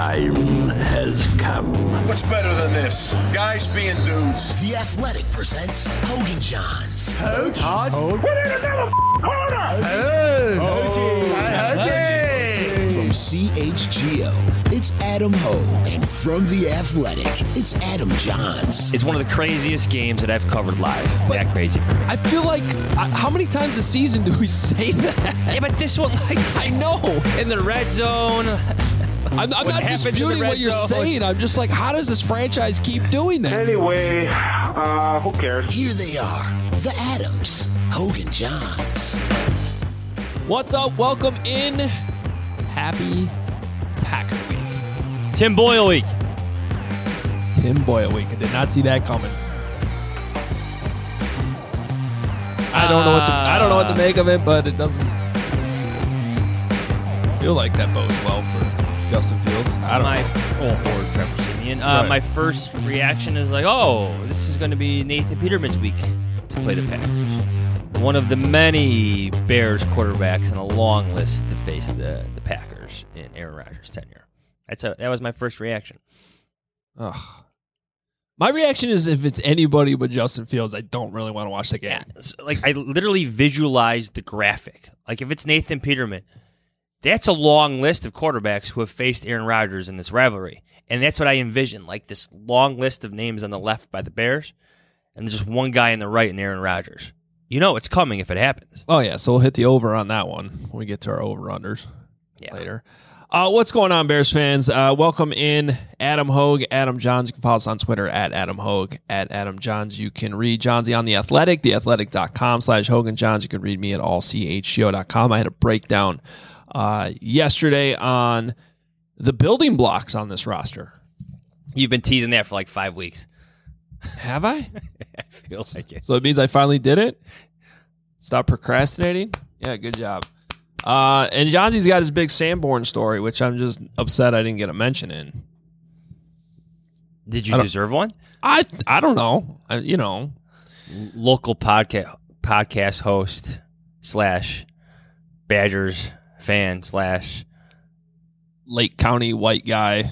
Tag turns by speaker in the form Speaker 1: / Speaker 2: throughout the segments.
Speaker 1: time has come.
Speaker 2: What's better than this? Guys being dudes.
Speaker 3: The Athletic presents Hogan Johns.
Speaker 4: Coach?
Speaker 2: Put in another corner!
Speaker 3: From CHGO, it's Adam Hogue. And from The Athletic, it's Adam Johns.
Speaker 5: It's one of the craziest games that I've covered live. That crazy for me.
Speaker 4: I feel like, how many times a season do we say that?
Speaker 5: Yeah, but this one,
Speaker 4: I know.
Speaker 5: in the red zone.
Speaker 4: I'm not
Speaker 5: happens in the
Speaker 4: disputing
Speaker 5: red
Speaker 4: what you're
Speaker 5: zone?
Speaker 4: saying. I'm just like, how does this franchise keep doing that?
Speaker 2: Anyway, who cares?
Speaker 3: Here they are, the Adams, Hogan Johns.
Speaker 4: What's up? Welcome in. Happy Packer Week.
Speaker 5: Tim Boyle week.
Speaker 4: Tim Boyle Week. I did not see that coming. I don't know what to make of it, but it doesn't feel like that bodes well for Justin Fields. I don't know.
Speaker 5: Or Trevor Siemian.
Speaker 4: Right.
Speaker 5: My first reaction is like, oh, this is going to be Nathan Peterman's week to play the Packers. One of the many Bears quarterbacks on a long list to face the Packers in Aaron Rodgers' tenure. That was my first reaction.
Speaker 4: Ugh. My reaction is if it's anybody but Justin Fields, I don't really want to watch the game.
Speaker 5: Yeah, so, I literally visualized the graphic. Like, if it's Nathan Peterman, that's a long list of quarterbacks who have faced Aaron Rodgers in this rivalry. And that's what I envision, like this long list of names on the left by the Bears, and just one guy on the right in Aaron Rodgers. You know it's coming if it happens.
Speaker 4: Oh, yeah, so we'll hit the over on that one when we get to our over-unders later. What's going on, Bears fans? Welcome in Adam Hogue, Adam Johns. You can follow us on Twitter at Adam Hogue, at Adam Johns. You can read Johnsy on The Athletic, theathletic.com/Hogan Johns. You can read me at allchgo.com. I had a breakdown yesterday on the building blocks on this roster.
Speaker 5: You've been teasing that for like 5 weeks.
Speaker 4: Have I?
Speaker 5: I feel like it.
Speaker 4: So it means I finally did it? Stop procrastinating? Yeah, good job. And Johnsy's got his big Sanborn story, which I'm just upset I didn't get a mention in.
Speaker 5: Did you deserve one?
Speaker 4: I don't know.
Speaker 5: Local podcast host / Badgers fan /
Speaker 4: Lake County white guy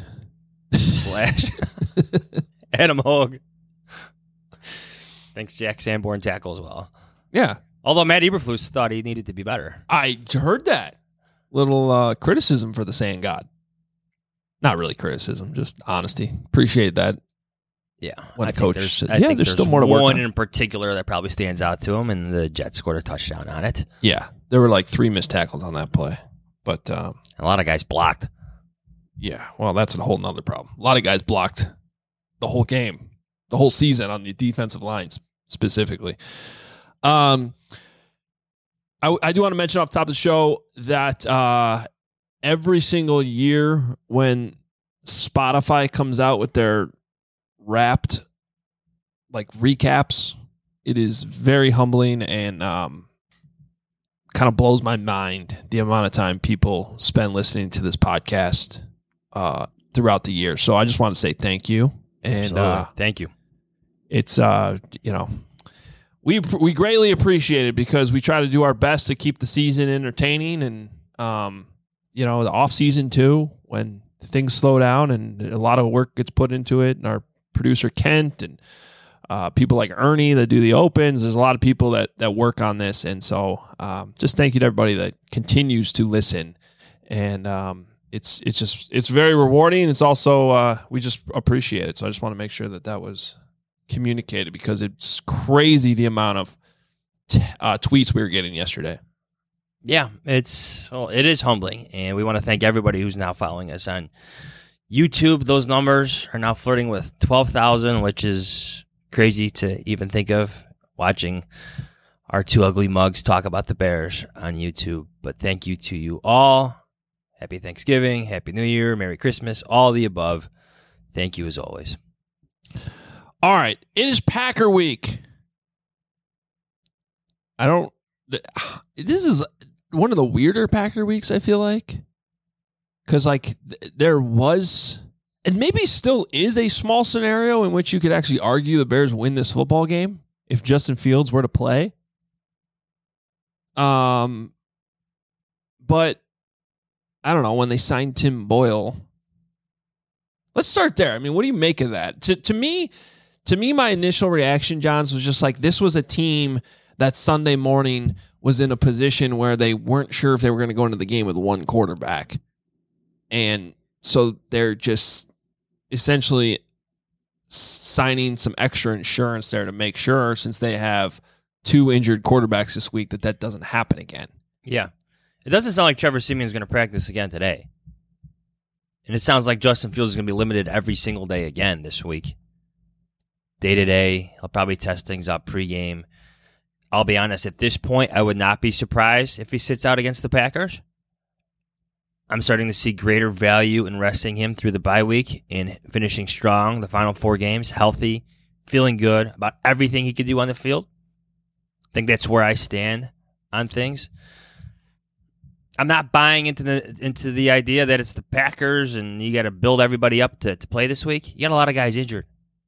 Speaker 5: / Adam Hogue. Thanks, Jack Sanborn tackle as well.
Speaker 4: Yeah.
Speaker 5: Although Matt Eberflus thought he needed to be better.
Speaker 4: I heard that. Little criticism for the Sand God. Not really criticism, just honesty. Appreciate that.
Speaker 5: Yeah.
Speaker 4: When
Speaker 5: I
Speaker 4: a coach
Speaker 5: think
Speaker 4: said, there's still more to work on.
Speaker 5: One in particular that probably stands out to him, and the Jets scored a touchdown on it.
Speaker 4: Yeah. There were like 3 missed tackles on that play. But
Speaker 5: a lot of guys blocked.
Speaker 4: Yeah. Well, that's a whole nother problem. A lot of guys blocked the whole game, the whole season on the defensive lines specifically. I do want to mention off the top of the show that every single year when Spotify comes out with their wrapped recaps, it is very humbling and kind of blows my mind the amount of time people spend listening to this podcast throughout the year. So I just want to say thank you. And
Speaker 5: thank you.
Speaker 4: It's we greatly appreciate it because we try to do our best to keep the season entertaining and the off season too, when things slow down and a lot of work gets put into it, and our producer Kent and people like Ernie that do the opens. There's a lot of people that work on this, and so just thank you to everybody that continues to listen. And it's very rewarding. It's also we just appreciate it. So I just want to make sure that was communicated because it's crazy the amount of tweets we were getting yesterday.
Speaker 5: Yeah, it is humbling, and we want to thank everybody who's now following us on YouTube. Those numbers are now flirting with 12,000, which is crazy to even think of, watching our two ugly mugs talk about the Bears on YouTube. But thank you to you all. Happy Thanksgiving, Happy New Year, Merry Christmas, all the above. Thank you as always.
Speaker 4: All right, it is Packer Week. This is one of the weirder Packer Weeks, I feel like. Because, there was, and maybe still is, a small scenario in which you could actually argue the Bears win this football game if Justin Fields were to play. But I don't know, when they signed Tim Boyle, Let's start there. I mean, what do you make of that? To me, my initial reaction, Johns, was just like this was a team that Sunday morning was in a position where they weren't sure if they were going to go into the game with one quarterback. And so they're just essentially signing some extra insurance there to make sure, since they have 2 injured quarterbacks this week, that doesn't happen again.
Speaker 5: Yeah. It doesn't sound like Trevor Siemian's going to practice again today. And it sounds like Justin Fields is going to be limited every single day again this week. Day to day, he'll probably test things up pregame. I'll be honest, at this point, I would not be surprised if he sits out against the Packers. I'm starting to see greater value in resting him through the bye week and finishing strong the final 4 games, healthy, feeling good about everything he could do on the field. I think that's where I stand on things. I'm not buying into the idea that it's the Packers and you got to build everybody up to play this week. You got a lot of guys injured.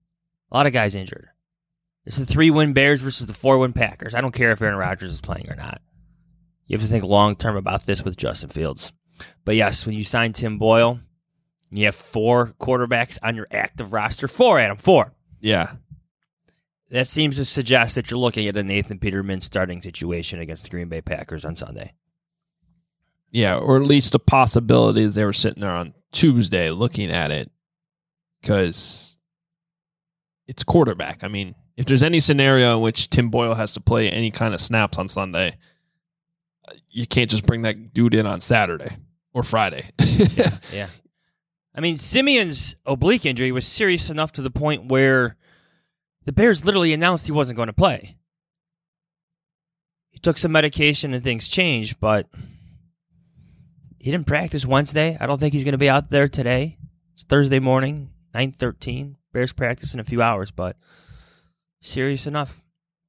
Speaker 5: It's the 3-win Bears versus the 4-win Packers. I don't care if Aaron Rodgers is playing or not. You have to think long-term about this with Justin Fields. But yes, when you sign Tim Boyle, you have 4 quarterbacks on your active roster. 4, Adam, 4.
Speaker 4: Yeah.
Speaker 5: That seems to suggest that you're looking at a Nathan Peterman starting situation against the Green Bay Packers on Sunday.
Speaker 4: Yeah, or at least the possibility is they were sitting there on Tuesday looking at it, because it's quarterback. I mean, if there's any scenario in which Tim Boyle has to play any kind of snaps on Sunday, you can't just bring that dude in on Saturday or Friday.
Speaker 5: Yeah. I mean, Simeon's oblique injury was serious enough to the point where the Bears literally announced he wasn't going to play. He took some medication and things changed, but he didn't practice Wednesday. I don't think he's going to be out there today. It's Thursday morning, 9:13. Bears practice in a few hours, but serious enough.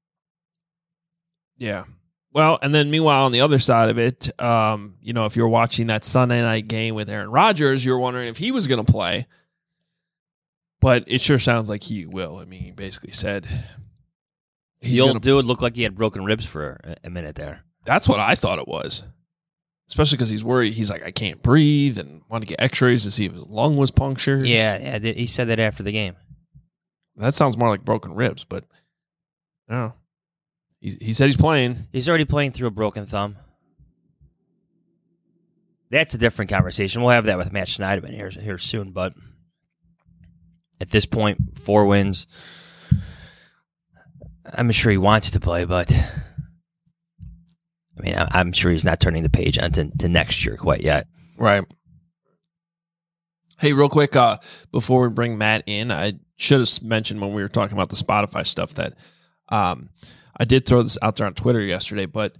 Speaker 4: Yeah. Well, and then meanwhile, on the other side of it, if you're watching that Sunday night game with Aaron Rodgers, you're wondering if he was going to play. But it sure sounds like he will. I mean, he basically said
Speaker 5: the old dude looked like he had broken ribs for a minute there.
Speaker 4: That's what I thought it was. Especially because he's worried. He's like, I can't breathe, and want to get x-rays to see if his lung was punctured.
Speaker 5: Yeah, he said that after the game.
Speaker 4: That sounds more like broken ribs, but no. He said he's playing.
Speaker 5: He's already playing through a broken thumb. That's a different conversation. We'll have that with Matt Schneidman here soon, but at this point, 4 wins. I'm sure he wants to play, but I mean, I'm sure he's not turning the page on to next year quite yet.
Speaker 4: Right. Hey, real quick, before we bring Matt in, I should have mentioned when we were talking about the Spotify stuff that I did throw this out there on Twitter yesterday, but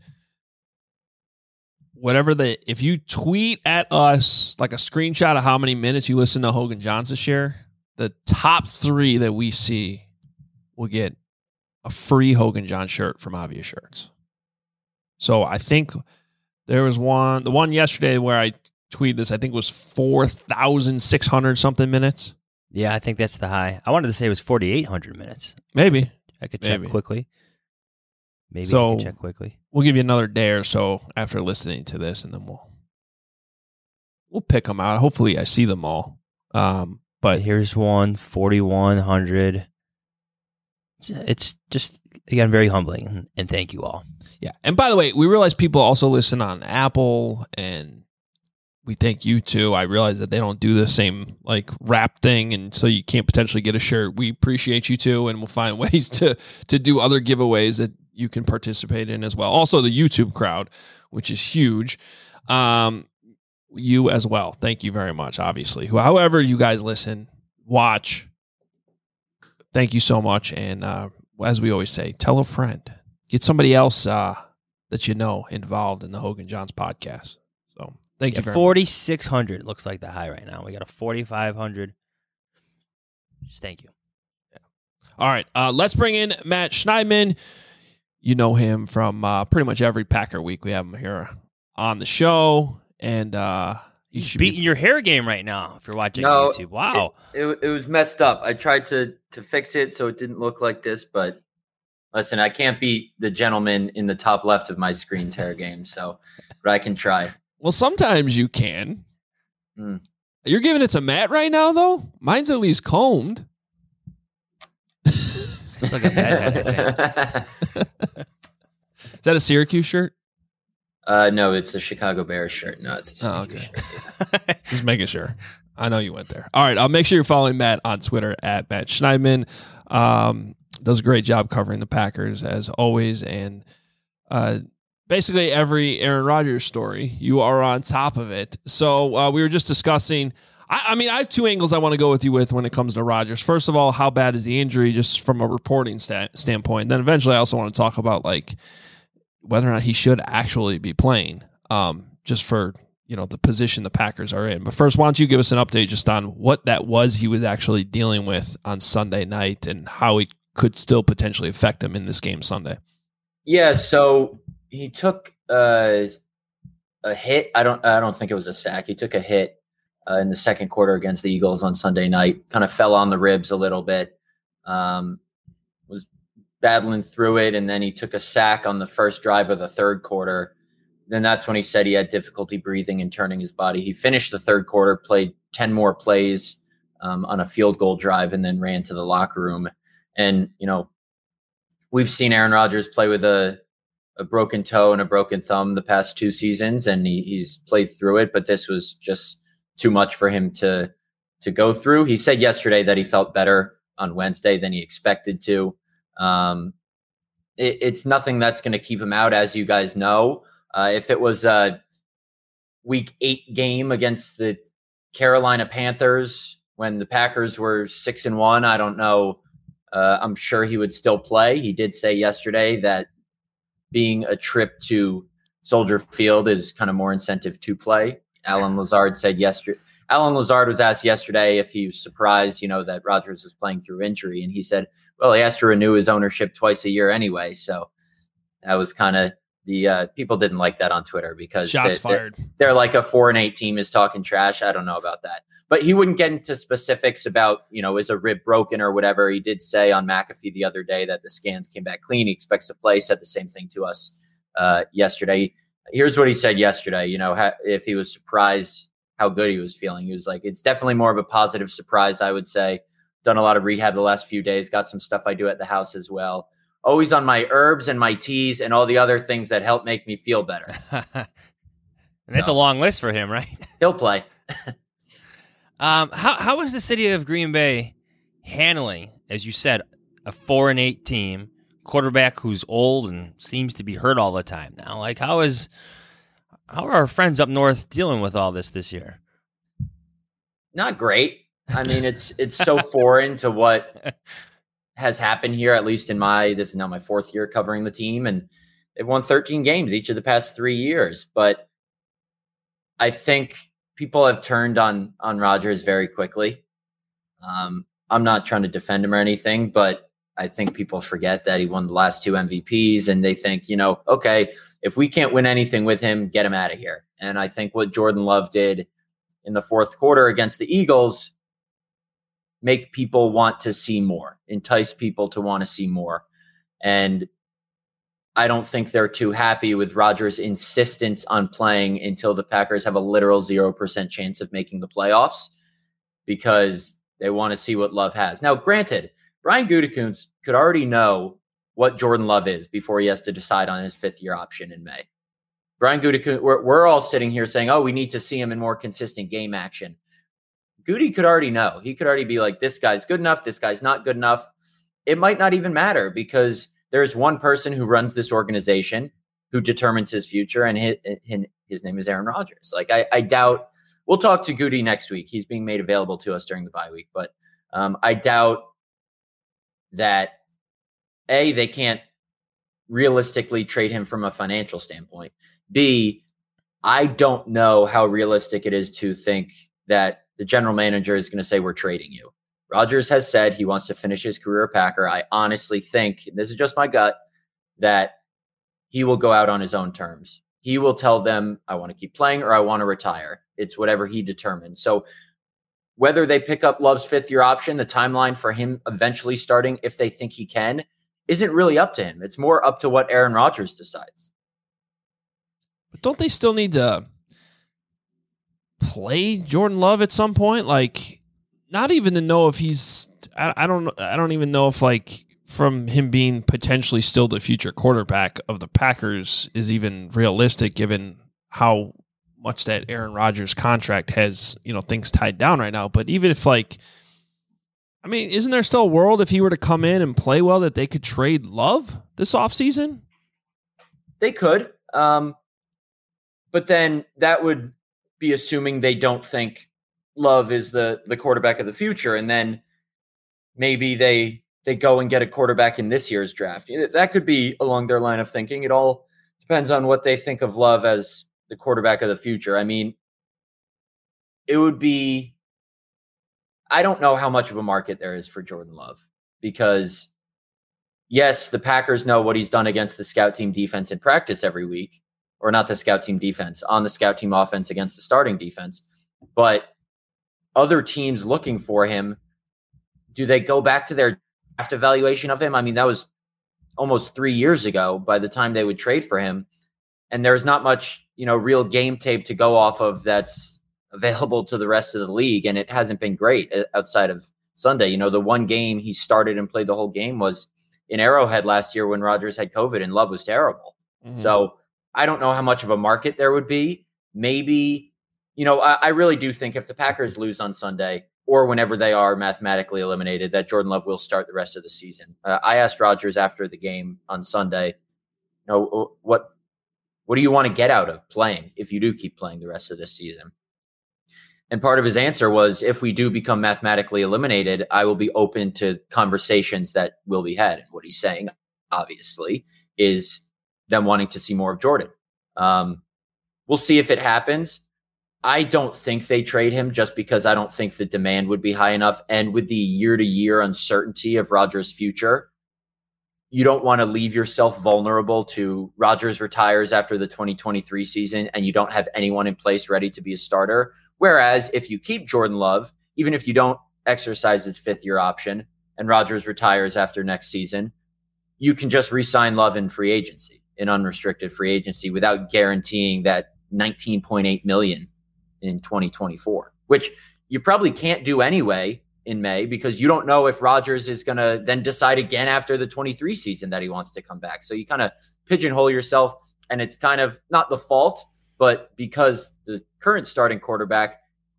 Speaker 4: if you tweet at us like a screenshot of how many minutes you listen to Hogan Johns this year, the top 3 that we see will get a free Hogan Johns shirt from Obvious Shirts. So I think there was the one yesterday where I tweeted this, I think was 4,600 something minutes.
Speaker 5: Yeah, I think that's the high. I wanted to say it was 4,800 minutes.
Speaker 4: Maybe.
Speaker 5: I could check quickly. Maybe
Speaker 4: so
Speaker 5: I can check quickly.
Speaker 4: We'll give you another day or so after listening to this, and then we'll pick them out. Hopefully I see them all. But
Speaker 5: here's one, 4,100. It's just, again, very humbling, and thank you all.
Speaker 4: Yeah. And by the way, we realize people also listen on Apple, and we thank you too. I realize that they don't do the same like rap thing, and so you can't potentially get a shirt. We appreciate you too, and we'll find ways to do other giveaways that you can participate in as well. Also, the YouTube crowd, which is huge. You as well. Thank you very much, obviously. However you guys listen, watch, thank you so much. And as we always say, tell a friend. Get somebody else that you know involved in the Hogan Johns podcast. So thank you very much.
Speaker 5: 4,600 looks like the high right now. We got a 4,500. Just thank you.
Speaker 4: Yeah. All right. Let's bring in Matt Schneidman. You know him from pretty much every Packer week. We have him here on the show. And
Speaker 5: he's beating your hair game right now if you're watching on YouTube. Wow.
Speaker 6: It was messed up. I tried to fix it so it didn't look like this, but listen, I can't beat the gentleman in the top left of my screen's hair game, but I can try.
Speaker 4: Well, sometimes you can. You're giving it to Matt right now, though? Mine's at least combed.
Speaker 5: Still got that head, I think.
Speaker 4: Is that a Syracuse shirt?
Speaker 6: No, it's a Chicago Bears shirt. No, it's a Syracuse shirt.
Speaker 4: Just making sure. I know you went there. All right, I'll make sure you're following Matt on Twitter at Matt Schneidman. Does a great job covering the Packers as always, and basically every Aaron Rodgers story, you are on top of it. So we were just discussing. I mean, I have two angles I want to go with you with when it comes to Rodgers. First of all, how bad is the injury, just from a reporting standpoint? Then eventually, I also want to talk about like whether or not he should actually be playing, just for the position the Packers are in. But first, why don't you give us an update just on what that was he was actually dealing with on Sunday night and how it could still potentially affect him in this game Sunday?
Speaker 6: Yeah, so he took a hit. I don't think it was a sack. He took a hit in the second quarter against the Eagles on Sunday night. Kind of fell on the ribs a little bit. Was battling through it, and then he took a sack on the first drive of the third quarter. Then that's when he said he had difficulty breathing and turning his body. He finished the third quarter, played 10 more plays on a field goal drive, and then ran to the locker room. And, we've seen Aaron Rodgers play with a broken toe and a broken thumb the past 2 seasons, and he's played through it, but this was just too much for him to go through. He said yesterday that he felt better on Wednesday than he expected to. It's nothing that's going to keep him out, as you guys know. If it was a week 8 game against the Carolina Panthers when the Packers were 6-1, I don't know. I'm sure he would still play. He did say yesterday that being a trip to Soldier Field is kind of more incentive to play. Alan Lazard was asked yesterday if he was surprised, that Rodgers was playing through injury. And he said, well, he has to renew his ownership twice a year anyway. So that was kind of the people didn't like that on Twitter because they're like a 4-8 team is talking trash. I don't know about that, but he wouldn't get into specifics about, is a rib broken or whatever. He did say on McAfee the other day that the scans came back clean. He expects to play, said the same thing to us yesterday. Here's what he said yesterday. If he was surprised how good he was feeling, he was like, it's definitely more of a positive surprise. I would say done a lot of rehab the last few days, got some stuff I do at the house as well. Always on my herbs and my teas and all the other things that help make me feel better.
Speaker 5: And that's a long list for him, right?
Speaker 6: He'll play.
Speaker 5: How is the city of Green Bay handling, as you said, a 4-8 team, quarterback who's old and seems to be hurt all the time now? Like, how are our friends up north dealing with all this year?
Speaker 6: Not great. I mean, it's so foreign to what has happened here, at least this is now my 4th year covering the team, and they've won 13 games each of the past 3 years. But I think people have turned on Rodgers very quickly. I'm not trying to defend him or anything, but I think people forget that he won the last 2 MVPs, and they think, okay, if we can't win anything with him, get him out of here. And I think what Jordan Love did in the fourth quarter against the Eagles make people want to see more, entice people to want to see more. And I don't think they're too happy with Rodgers' insistence on playing until the Packers have a literal 0% chance of making the playoffs, because they want to see what Love has. Now, granted, Brian Gutekunst could already know what Jordan Love is before he has to decide on his 5th-year option in May. Brian Gutekunst, we're all sitting here saying, oh, we need to see him in more consistent game action. Goody could already know. He could already be like, this guy's good enough, this guy's not good enough. It might not even matter, because there's one person who runs this organization who determines his future, and his name is Aaron Rodgers. Like, I doubt – we'll talk to Goody next week. He's being made available to us during the bye week. But I doubt that, A, they can't realistically trade him from a financial standpoint. B, I don't know how realistic it is to think that the general manager is going to say, we're trading you. Rodgers has said he wants to finish his career a Packer. I honestly think, this is just my gut, that he will go out on his own terms. He will tell them, I want to keep playing or I want to retire. It's whatever he determines. So whether they pick up Love's 5th-year option, the timeline for him eventually starting, if they think he can, isn't really up to him. It's more up to what Aaron Rodgers decides.
Speaker 4: But don't they still need to play Jordan Love at some point? Like, not even to know if he's. I don't even know if, like, from him being potentially still the future quarterback of the Packers is even realistic, given how much that Aaron Rodgers contract has, things tied down right now. But even if, like, I mean, isn't there still a world if he were to come in and play well that they could trade Love this offseason?
Speaker 6: They could. But then that would be assuming they don't think Love is the quarterback of the future. And then maybe they go and get a quarterback in this year's draft. That could be along their line of thinking. It all depends on what they think of Love as the quarterback of the future. I mean, it would be, I don't know how much of a market there is for Jordan Love, because yes, the Packers know what he's done against the scout team defense in practice every week, or not the scout team defense, on the scout team offense against the starting defense. But other teams looking for him, do they go back to their draft evaluation of him? I mean, that was almost 3 years ago by the time they would trade for him. And there's not much, real game tape to go off of that's available to the rest of the league. And it hasn't been great outside of Sunday. The one game he started and played the whole game was in Arrowhead last year when Rodgers had COVID and Love was terrible. Mm-hmm. So I don't know how much of a market there would be. Maybe, I really do think if the Packers lose on Sunday, or whenever they are mathematically eliminated, that Jordan Love will start the rest of the season. I asked Rodgers after the game on Sunday, what do you want to get out of playing if you do keep playing the rest of this season? And part of his answer was, if we do become mathematically eliminated, I will be open to conversations that will be had. And what he's saying, obviously, is them wanting to see more of Jordan. We'll see if it happens. I don't think they trade him just because I don't think the demand would be high enough. And with the year-to-year uncertainty of Rodgers' future, you don't want to leave yourself vulnerable to Rodgers retires after the 2023 season and you don't have anyone in place ready to be a starter. Whereas if you keep Jordan Love, even if you don't exercise his fifth-year option and Rodgers retires after next season, you can just re-sign Love in free agency, in unrestricted free agency, without guaranteeing that $19.8 million in 2024, which you probably can't do anyway in May, because you don't know if Rodgers is going to then decide again after the 23 season that he wants to come back. So you kind of pigeonhole yourself, and it's kind of not the fault, but because the current starting quarterback,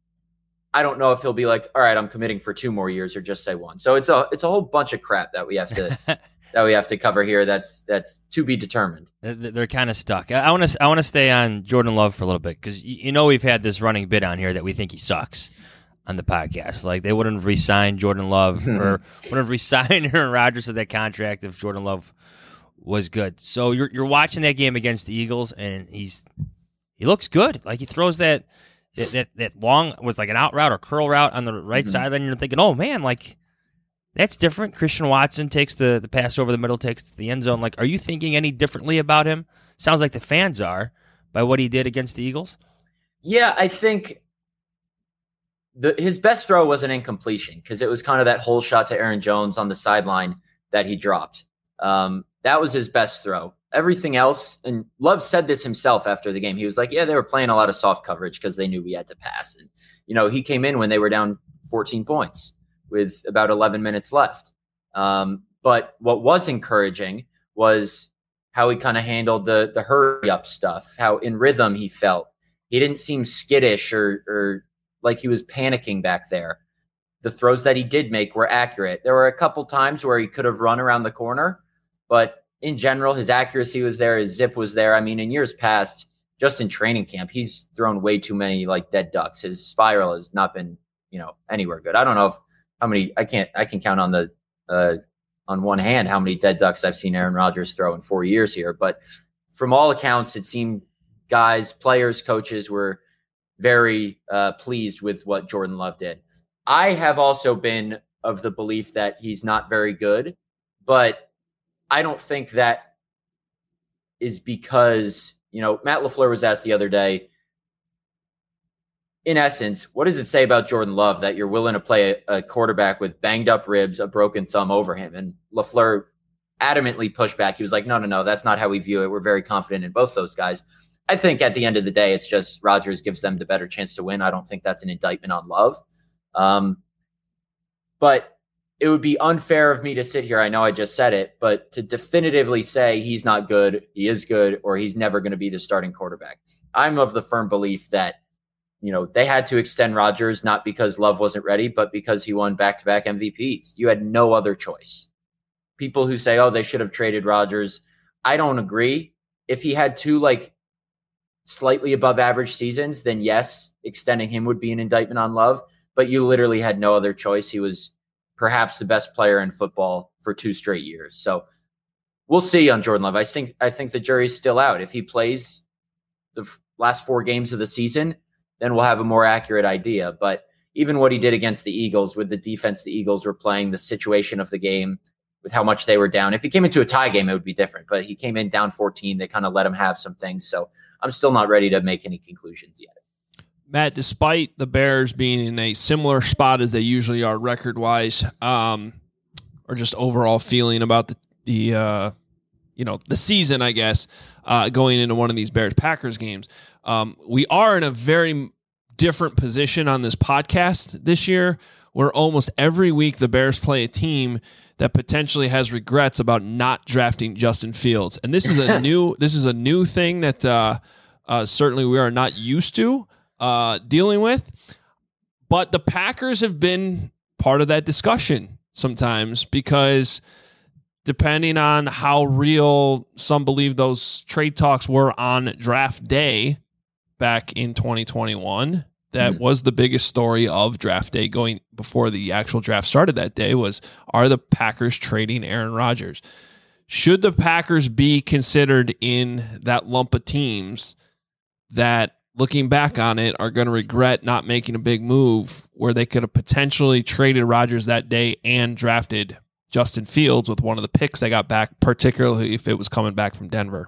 Speaker 6: I don't know if he'll be like, all right, I'm committing for 2 more years, or just say 1. So it's a whole bunch of crap that we have to cover here. That's to be determined.
Speaker 5: They're kind of stuck. I want to stay on Jordan Love for a little bit, because we've had this running bit on here that we think he sucks on the podcast. Like, they wouldn't have re-signed Jordan Love or wouldn't have re-signed Aaron Rodgers to that contract if Jordan Love was good. So you're watching that game against the Eagles, and he looks good. Like, he throws that long, was like an out route or curl route on the right sideline. You're thinking, oh man, like, that's different. Christian Watson takes the pass over the middle, takes the end zone. Like, are you thinking any differently about him? Sounds like the fans are, by what he did against the Eagles. Yeah,
Speaker 6: I think his best throw was an incompletion, because it was kind of that whole shot to Aaron Jones on the sideline that he dropped. That was his best throw. Everything else, and Love said this himself after the game, he was like, yeah, they were playing a lot of soft coverage because they knew we had to pass. And, he came in when they were down 14 points with about 11 minutes left. But what was encouraging was how he kind of handled the hurry up stuff, how in rhythm he felt. He didn't seem skittish or like he was panicking back there. The throws that he did make were accurate. There were a couple times where he could have run around the corner, but in general, his accuracy was there. His zip was there. I mean, in years past, just in training camp, he's thrown way too many like dead ducks. His spiral has not been, anywhere good. I don't know how many, I can count on one hand how many dead ducks I've seen Aaron Rodgers throw in 4 years here. But from all accounts, it seemed players, coaches were very pleased with what Jordan Love did. I have also been of the belief that he's not very good, but I don't think that is because, Matt LaFleur was asked the other day, in essence, what does it say about Jordan Love that you're willing to play a quarterback with banged up ribs, a broken thumb over him? And LaFleur adamantly pushed back. He was like, no, that's not how we view it. We're very confident in both those guys. I think at the end of the day, it's just Rodgers gives them the better chance to win. I don't think that's an indictment on Love. But it would be unfair of me to sit here. I know I just said it, but to definitively say he's not good, he is good, or he's never going to be the starting quarterback. I'm of the firm belief that, they had to extend Rodgers, not because Love wasn't ready, but because he won back-to-back MVPs. You had no other choice. People who say, they should have traded Rodgers, I don't agree. If he had two, slightly above average seasons, then yes, extending him would be an indictment on Love, but you literally had no other choice. He was perhaps the best player in football for 2 straight years. So we'll see on Jordan Love. I think the jury's still out. If he plays the last 4 games of the season, then we'll have a more accurate idea. But even what he did against the Eagles with the defense the Eagles were playing, the situation of the game, with how much they were down. If he came into a tie game, it would be different. But he came in down 14. They kind of let him have some things. So I'm still not ready to make any conclusions yet.
Speaker 4: Matt, despite the Bears being in a similar spot as they usually are record-wise, or just overall feeling about the season, I guess, going into one of these Bears-Packers games, we are in a very different position on this podcast this year, where almost every week the Bears play a team that potentially has regrets about not drafting Justin Fields. And this is a new thing that certainly we are not used to dealing with. But the Packers have been part of that discussion sometimes, because depending on how real some believe those trade talks were on draft day back in 2021, that was the biggest story of draft day going before the actual draft started that day was, are the Packers trading Aaron Rodgers? Should the Packers be considered in that lump of teams that, looking back on it, are going to regret not making a big move where they could have potentially traded Rodgers that day and drafted Justin Fields with one of the picks they got back, particularly if it was coming back from Denver?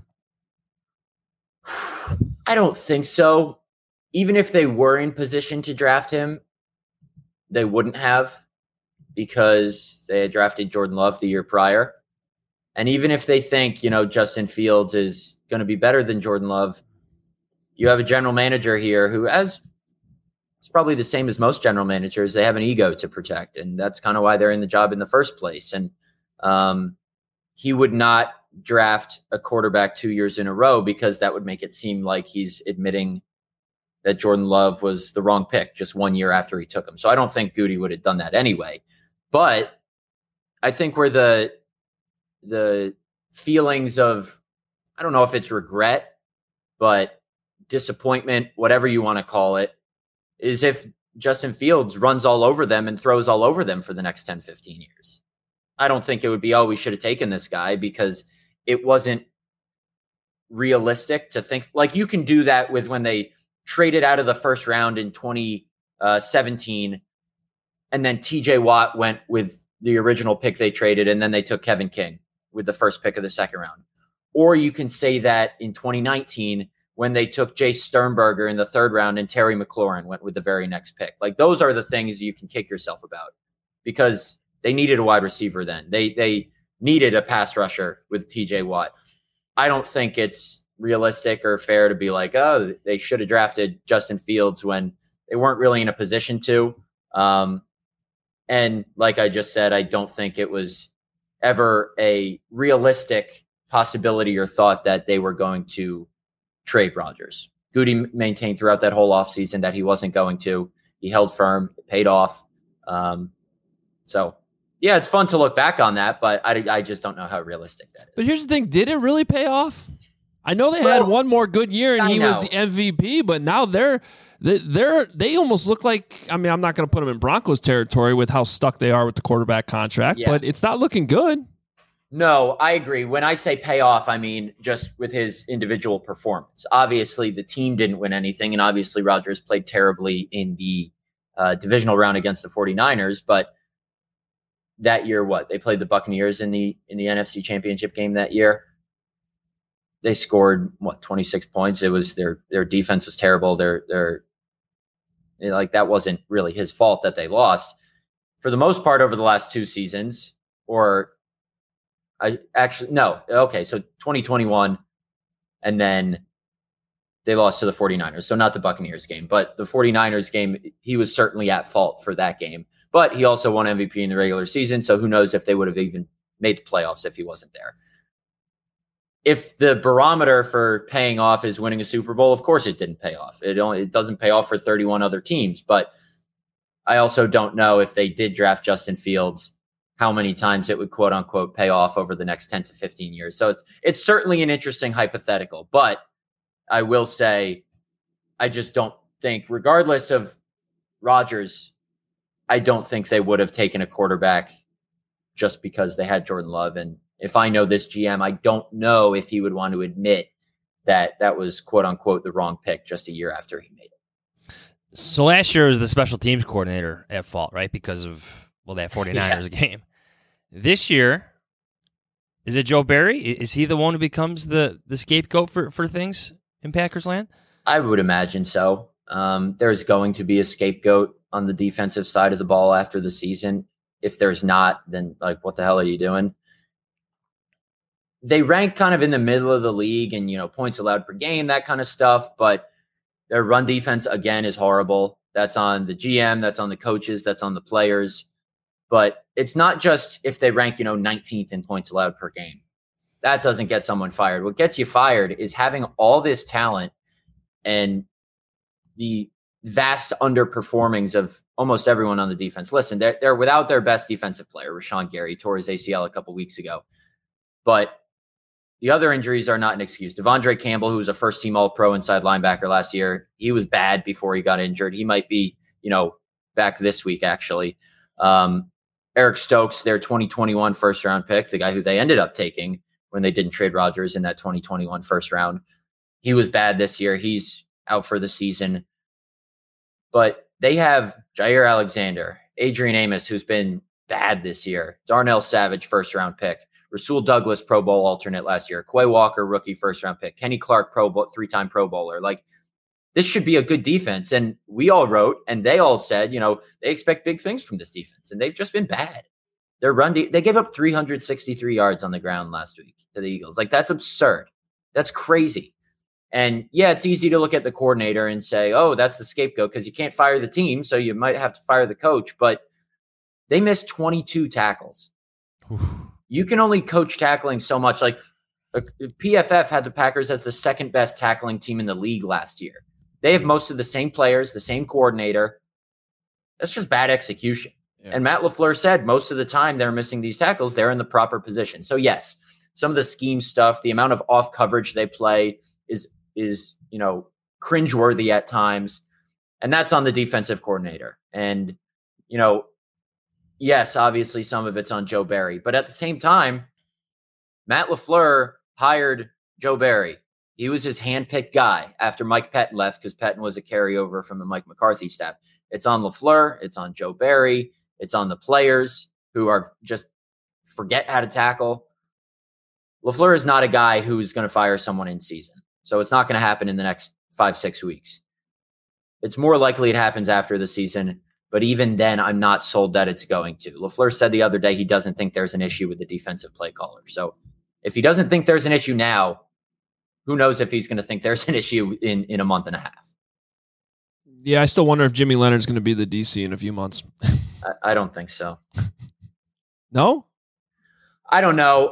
Speaker 6: I don't think so. Even if they were in position to draft him, they wouldn't have, because they had drafted Jordan Love the year prior. And even if they think, Justin Fields is going to be better than Jordan Love, you have a general manager here who it's probably the same as most general managers. They have an ego to protect, and that's kind of why they're in the job in the first place. And he would not draft a quarterback 2 years in a row, because that would make it seem like he's admitting that Jordan Love was the wrong pick just 1 year after he took him. So I don't think Goody would have done that anyway. But I think where the feelings of, I don't know if it's regret, but disappointment, whatever you want to call it, is if Justin Fields runs all over them and throws all over them for the next 10, 15 years. I don't think it would be, we should have taken this guy, because it wasn't realistic to think. Like, you can do that with when they traded out of the first round in 2017, and then TJ Watt went with the original pick they traded, and then they took Kevin King with the first pick of the second round. Or you can say that in 2019, when they took Jace Sternberger in the third round and Terry McLaurin went with the very next pick. Like, those are the things you can kick yourself about, because they needed a wide receiver then. They needed a pass rusher with TJ Watt. I don't think it's realistic or fair to be like, they should have drafted Justin Fields when they weren't really in a position to. And like I just said, I don't think it was ever a realistic possibility or thought that they were going to trade Rodgers. Goody maintained throughout that whole offseason that he wasn't going to. He held firm. It paid off. So, yeah, it's fun to look back on that, but I just don't know how realistic that is.
Speaker 4: But here's the thing. Did it really pay off? I know they had one more good year and he was the MVP, but now they almost look like, I'm not going to put them in Broncos territory with how stuck they are with the quarterback contract, but it's not looking good.
Speaker 6: No, I agree. When I say pay off, I mean just with his individual performance. Obviously, the team didn't win anything, and obviously Rodgers played terribly in the divisional round against the 49ers, but that year, they played the Buccaneers in the NFC Championship game that year. They scored 26 points. It was their defense was terrible. Their that wasn't really his fault that they lost. For the most part over the last 2 seasons, so 2021 and then They lost to the 49ers, so not the Buccaneers game, but the 49ers game, he was certainly at fault for that game. But he also won MVP in the regular season, so who knows if they would have even made the playoffs if he wasn't there. If the barometer for paying off is winning a Super Bowl, of course it didn't pay off. It doesn't pay off for 31 other teams, but I also don't know if they did draft Justin Fields, how many times it would quote unquote pay off over the next 10 to 15 years. So it's certainly an interesting hypothetical, but I will say, I just don't think, regardless of Rodgers, I don't think they would have taken a quarterback just because they had Jordan Love. And if I know this GM, I don't know if he would want to admit that that was quote unquote the wrong pick just a year after he made it.
Speaker 5: So last year was the special teams coordinator at fault, right? Because of, that 49ers game. This year, is it Joe Barry? Is he the one who becomes the scapegoat for things in Packers land?
Speaker 6: I would imagine so. There's going to be a scapegoat on the defensive side of the ball after the season. If there's not, then what the hell are you doing? They rank kind of in the middle of the league and, points allowed per game, that kind of stuff. But their run defense, again, is horrible. That's on the GM. That's on the coaches. That's on the players. But it's not just if they rank, 19th in points allowed per game. That doesn't get someone fired. What gets you fired is having all this talent and the vast underperformings of almost everyone on the defense. Listen, they're without their best defensive player, Rashawn Gary, tore his ACL a couple weeks ago. But the other injuries are not an excuse. Devondre Campbell, who was a first-team All-Pro inside linebacker last year, he was bad before he got injured. He might be, back this week, actually. Eric Stokes, their 2021 first-round pick, the guy who they ended up taking when they didn't trade Rodgers in that 2021 first round. He was bad this year. He's out for the season. But they have Jair Alexander, Adrian Amos, who's been bad this year, Darnell Savage, first-round pick, Rasul Douglas, Pro Bowl alternate last year, Quay Walker, rookie first-round pick, Kenny Clark, three-time Pro Bowler. This should be a good defense. And we all wrote, and they all said, they expect big things from this defense, and they've just been bad. Their they gave up 363 yards on the ground last week to the Eagles. That's absurd. That's crazy. And yeah, it's easy to look at the coordinator and say, oh, that's the scapegoat because you can't fire the team, so you might have to fire the coach. But they missed 22 tackles. You can only coach tackling so much. PFF had the Packers as the second best tackling team in the league last year. They have most of the same players, the same coordinator. That's just bad execution. Yeah. And Matt LaFleur said most of the time they're missing these tackles, they're in the proper position. So yes, some of the scheme stuff, the amount of off coverage they play is cringeworthy at times. And that's on the defensive coordinator. And, yes, obviously some of it's on Joe Barry. But at the same time, Matt LaFleur hired Joe Barry. He was his handpicked guy after Mike Pettin left because Pettin was a carryover from the Mike McCarthy staff. It's on LaFleur. It's on Joe Barry. It's on the players who are just forget how to tackle. LaFleur is not a guy who's going to fire someone in season. So it's not going to happen in the next 5-6 weeks. It's more likely it happens after the season. But even then, I'm not sold that it's going to. LaFleur said the other day he doesn't think there's an issue with the defensive play caller. So if he doesn't think there's an issue now, who knows if he's going to think there's an issue in a month and a half.
Speaker 4: Yeah, I still wonder if Jimmy Leonard's going to be the DC in a few months.
Speaker 6: I don't think so.
Speaker 4: No?
Speaker 6: I don't know.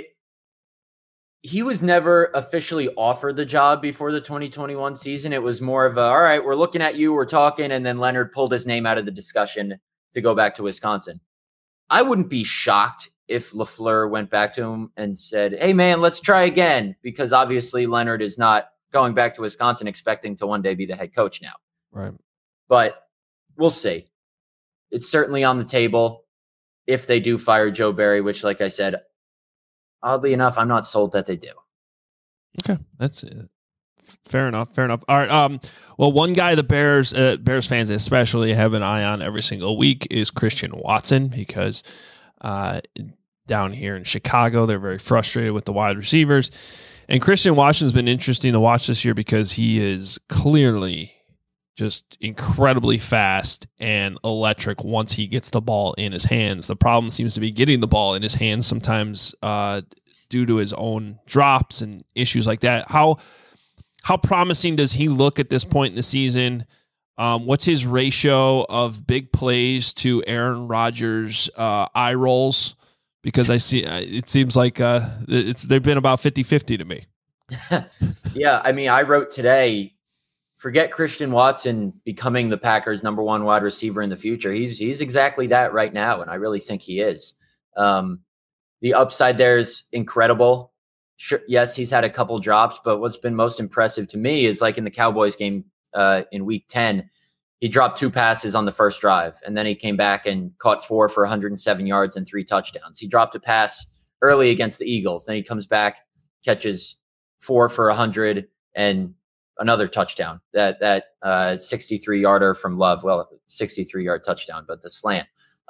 Speaker 6: He was never officially offered the job before the 2021 season. It was more of all right, we're looking at you, we're talking, and then Leonard pulled his name out of the discussion to go back to Wisconsin. I wouldn't be shocked if LaFleur went back to him and said, hey, man, let's try again, because obviously Leonard is not going back to Wisconsin expecting to one day be the head coach now.
Speaker 4: Right.
Speaker 6: But we'll see. It's certainly on the table if they do fire Joe Barry, which, like I said, oddly enough, I'm not sold that they do.
Speaker 4: Okay, that's it. Fair enough. All right. Well, one guy the Bears fans especially have an eye on every single week is Christian Watson, because down here in Chicago, they're very frustrated with the wide receivers. And Christian Watson's been interesting to watch this year because he is clearly just incredibly fast and electric once he gets the ball in his hands. The problem seems to be getting the ball in his hands sometimes due to his own drops and issues like that. How How promising does he look at this point in the season? What's his ratio of big plays to Aaron Rodgers' eye rolls? Because I see it seems like they've been about 50-50 to me.
Speaker 6: Yeah, I mean, I wrote today, forget Christian Watson becoming the Packers' number one wide receiver in the future. He's exactly that right now, and I really think he is. The upside there is incredible. Sure, yes, he's had a couple drops, but what's been most impressive to me is like in the Cowboys game in Week 10, he dropped 2 passes on the first drive, and then he came back and caught 4 for 107 yards and 3 touchdowns. He dropped a pass early against the Eagles. Then he comes back, catches 4 for 100 and another touchdown. That 63-yarder from Love. Well, 63-yard touchdown, but the slant.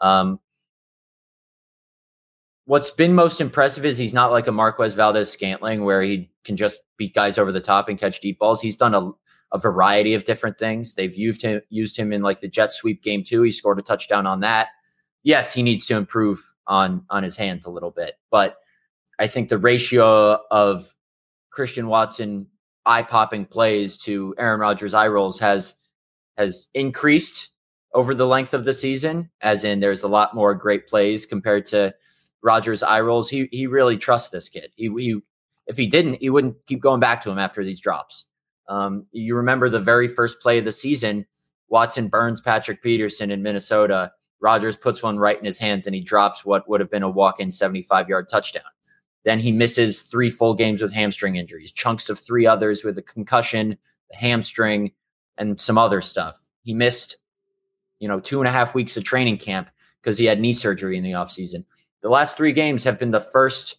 Speaker 6: What's been most impressive is he's not like a Marquez Valdes-Scantling where he can just beat guys over the top and catch deep balls. He's done a variety of different things. They've used him in like the jet sweep game too. He scored a touchdown on that. Yes, he needs to improve on his hands a little bit, but I think the ratio of Christian Watson eye-popping plays to Aaron Rodgers' eye rolls has increased over the length of the season, as in there's a lot more great plays compared to Rodgers' eye rolls. He really trusts this kid. If he didn't, he wouldn't keep going back to him after these drops. You remember the very first play of the season, Watson burns Patrick Peterson in Minnesota. Rodgers puts one right in his hands and he drops what would have been a walk-in 75-yard touchdown. Then he misses 3 full games with hamstring injuries, chunks of 3 others with a concussion, the hamstring, and some other stuff. He missed, 2.5 weeks of training camp because he had knee surgery in the offseason. The last 3 games have been the first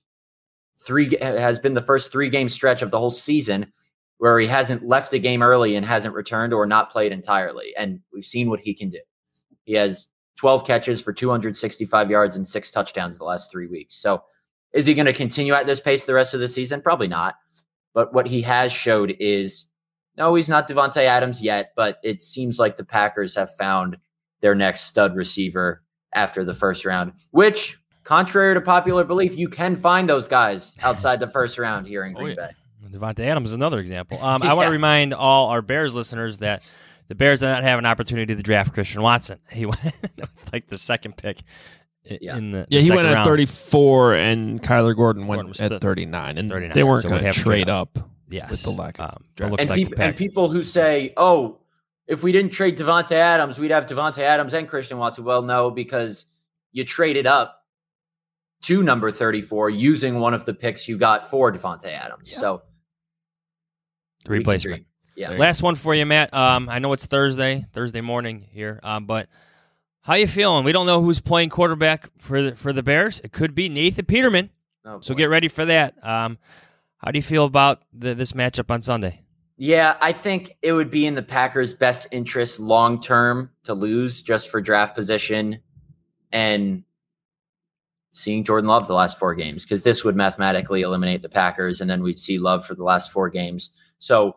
Speaker 6: 3-game stretch of the whole season where he hasn't left a game early and hasn't returned or not played entirely. And we've seen what he can do. He has 12 catches for 265 yards and 6 touchdowns the last 3 weeks. So is he going to continue at this pace the rest of the season? Probably not. But what he has showed is, no, he's not Devontae Adams yet, but it seems like the Packers have found their next stud receiver after the first round, which, contrary to popular belief, you can find those guys outside the first round here in Green Bay.
Speaker 5: Devontae Adams is another example. I want to remind all our Bears listeners that the Bears did not have an opportunity to draft Christian Watson. He went like the second pick in the
Speaker 4: he went at
Speaker 5: round.
Speaker 4: 34, and Kyler Gordon went at 39, and
Speaker 5: 39,
Speaker 4: they weren't
Speaker 5: so
Speaker 4: going to trade up
Speaker 5: yes.
Speaker 4: with the lack of draft.
Speaker 6: And people who say, oh, if we didn't trade Devontae Adams, we'd have Devontae Adams and Christian Watson. Well, no, because you traded up to number 34 using one of the picks you got for Devontae Adams. Yeah. So
Speaker 5: replacement.
Speaker 6: Yeah.
Speaker 5: Last one for you, Matt. I know it's Thursday morning here, but how you feeling? We don't know who's playing quarterback for the Bears. It could be Nathan Peterman. So get ready for that. How do you feel about this matchup on Sunday?
Speaker 6: Yeah, I think it would be in the Packers' best interest long-term to lose just for draft position and seeing Jordan Love the last 4 games, because this would mathematically eliminate the Packers, and then we'd see Love for the last 4 games. So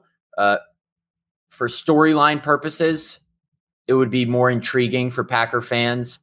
Speaker 6: for storyline purposes, it would be more intriguing for Packer fans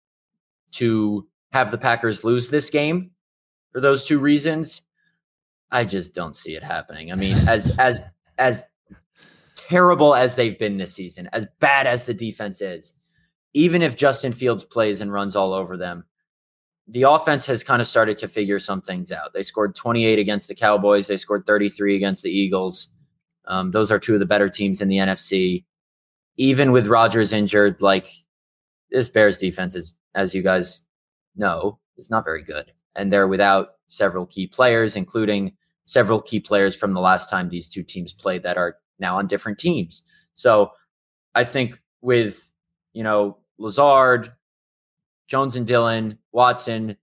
Speaker 6: to have the Packers lose this game for those 2 reasons. I just don't see it happening. I mean, as terrible as they've been this season, as bad as the defense is, even if Justin Fields plays and runs all over them, the offense has kind of started to figure some things out. They scored 28 against the Cowboys. They scored 33 against the Eagles. Those are 2 of the better teams in the NFC. Even with Rodgers injured, like, this Bears defense is, as you guys know, is not very good. And they're without several key players, including several key players from the last time these 2 teams played that are now on different teams. So I think with, Lazard, Jones and Dillon, Watson,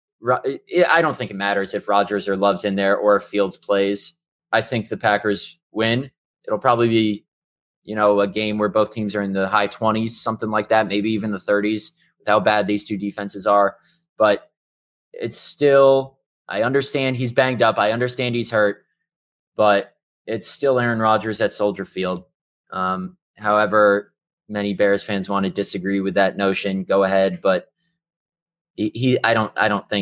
Speaker 6: I don't think it matters if Rodgers or Love's in there or if Fields plays. I think the Packers win. It'll probably be, a game where both teams are in the high 20s, something like that, maybe even the 30s with how bad these 2 defenses are. But it's still, I understand he's banged up. I understand he's hurt, but it's still Aaron Rodgers at Soldier Field. However, many Bears fans want to disagree with that notion. Go ahead, but I don't think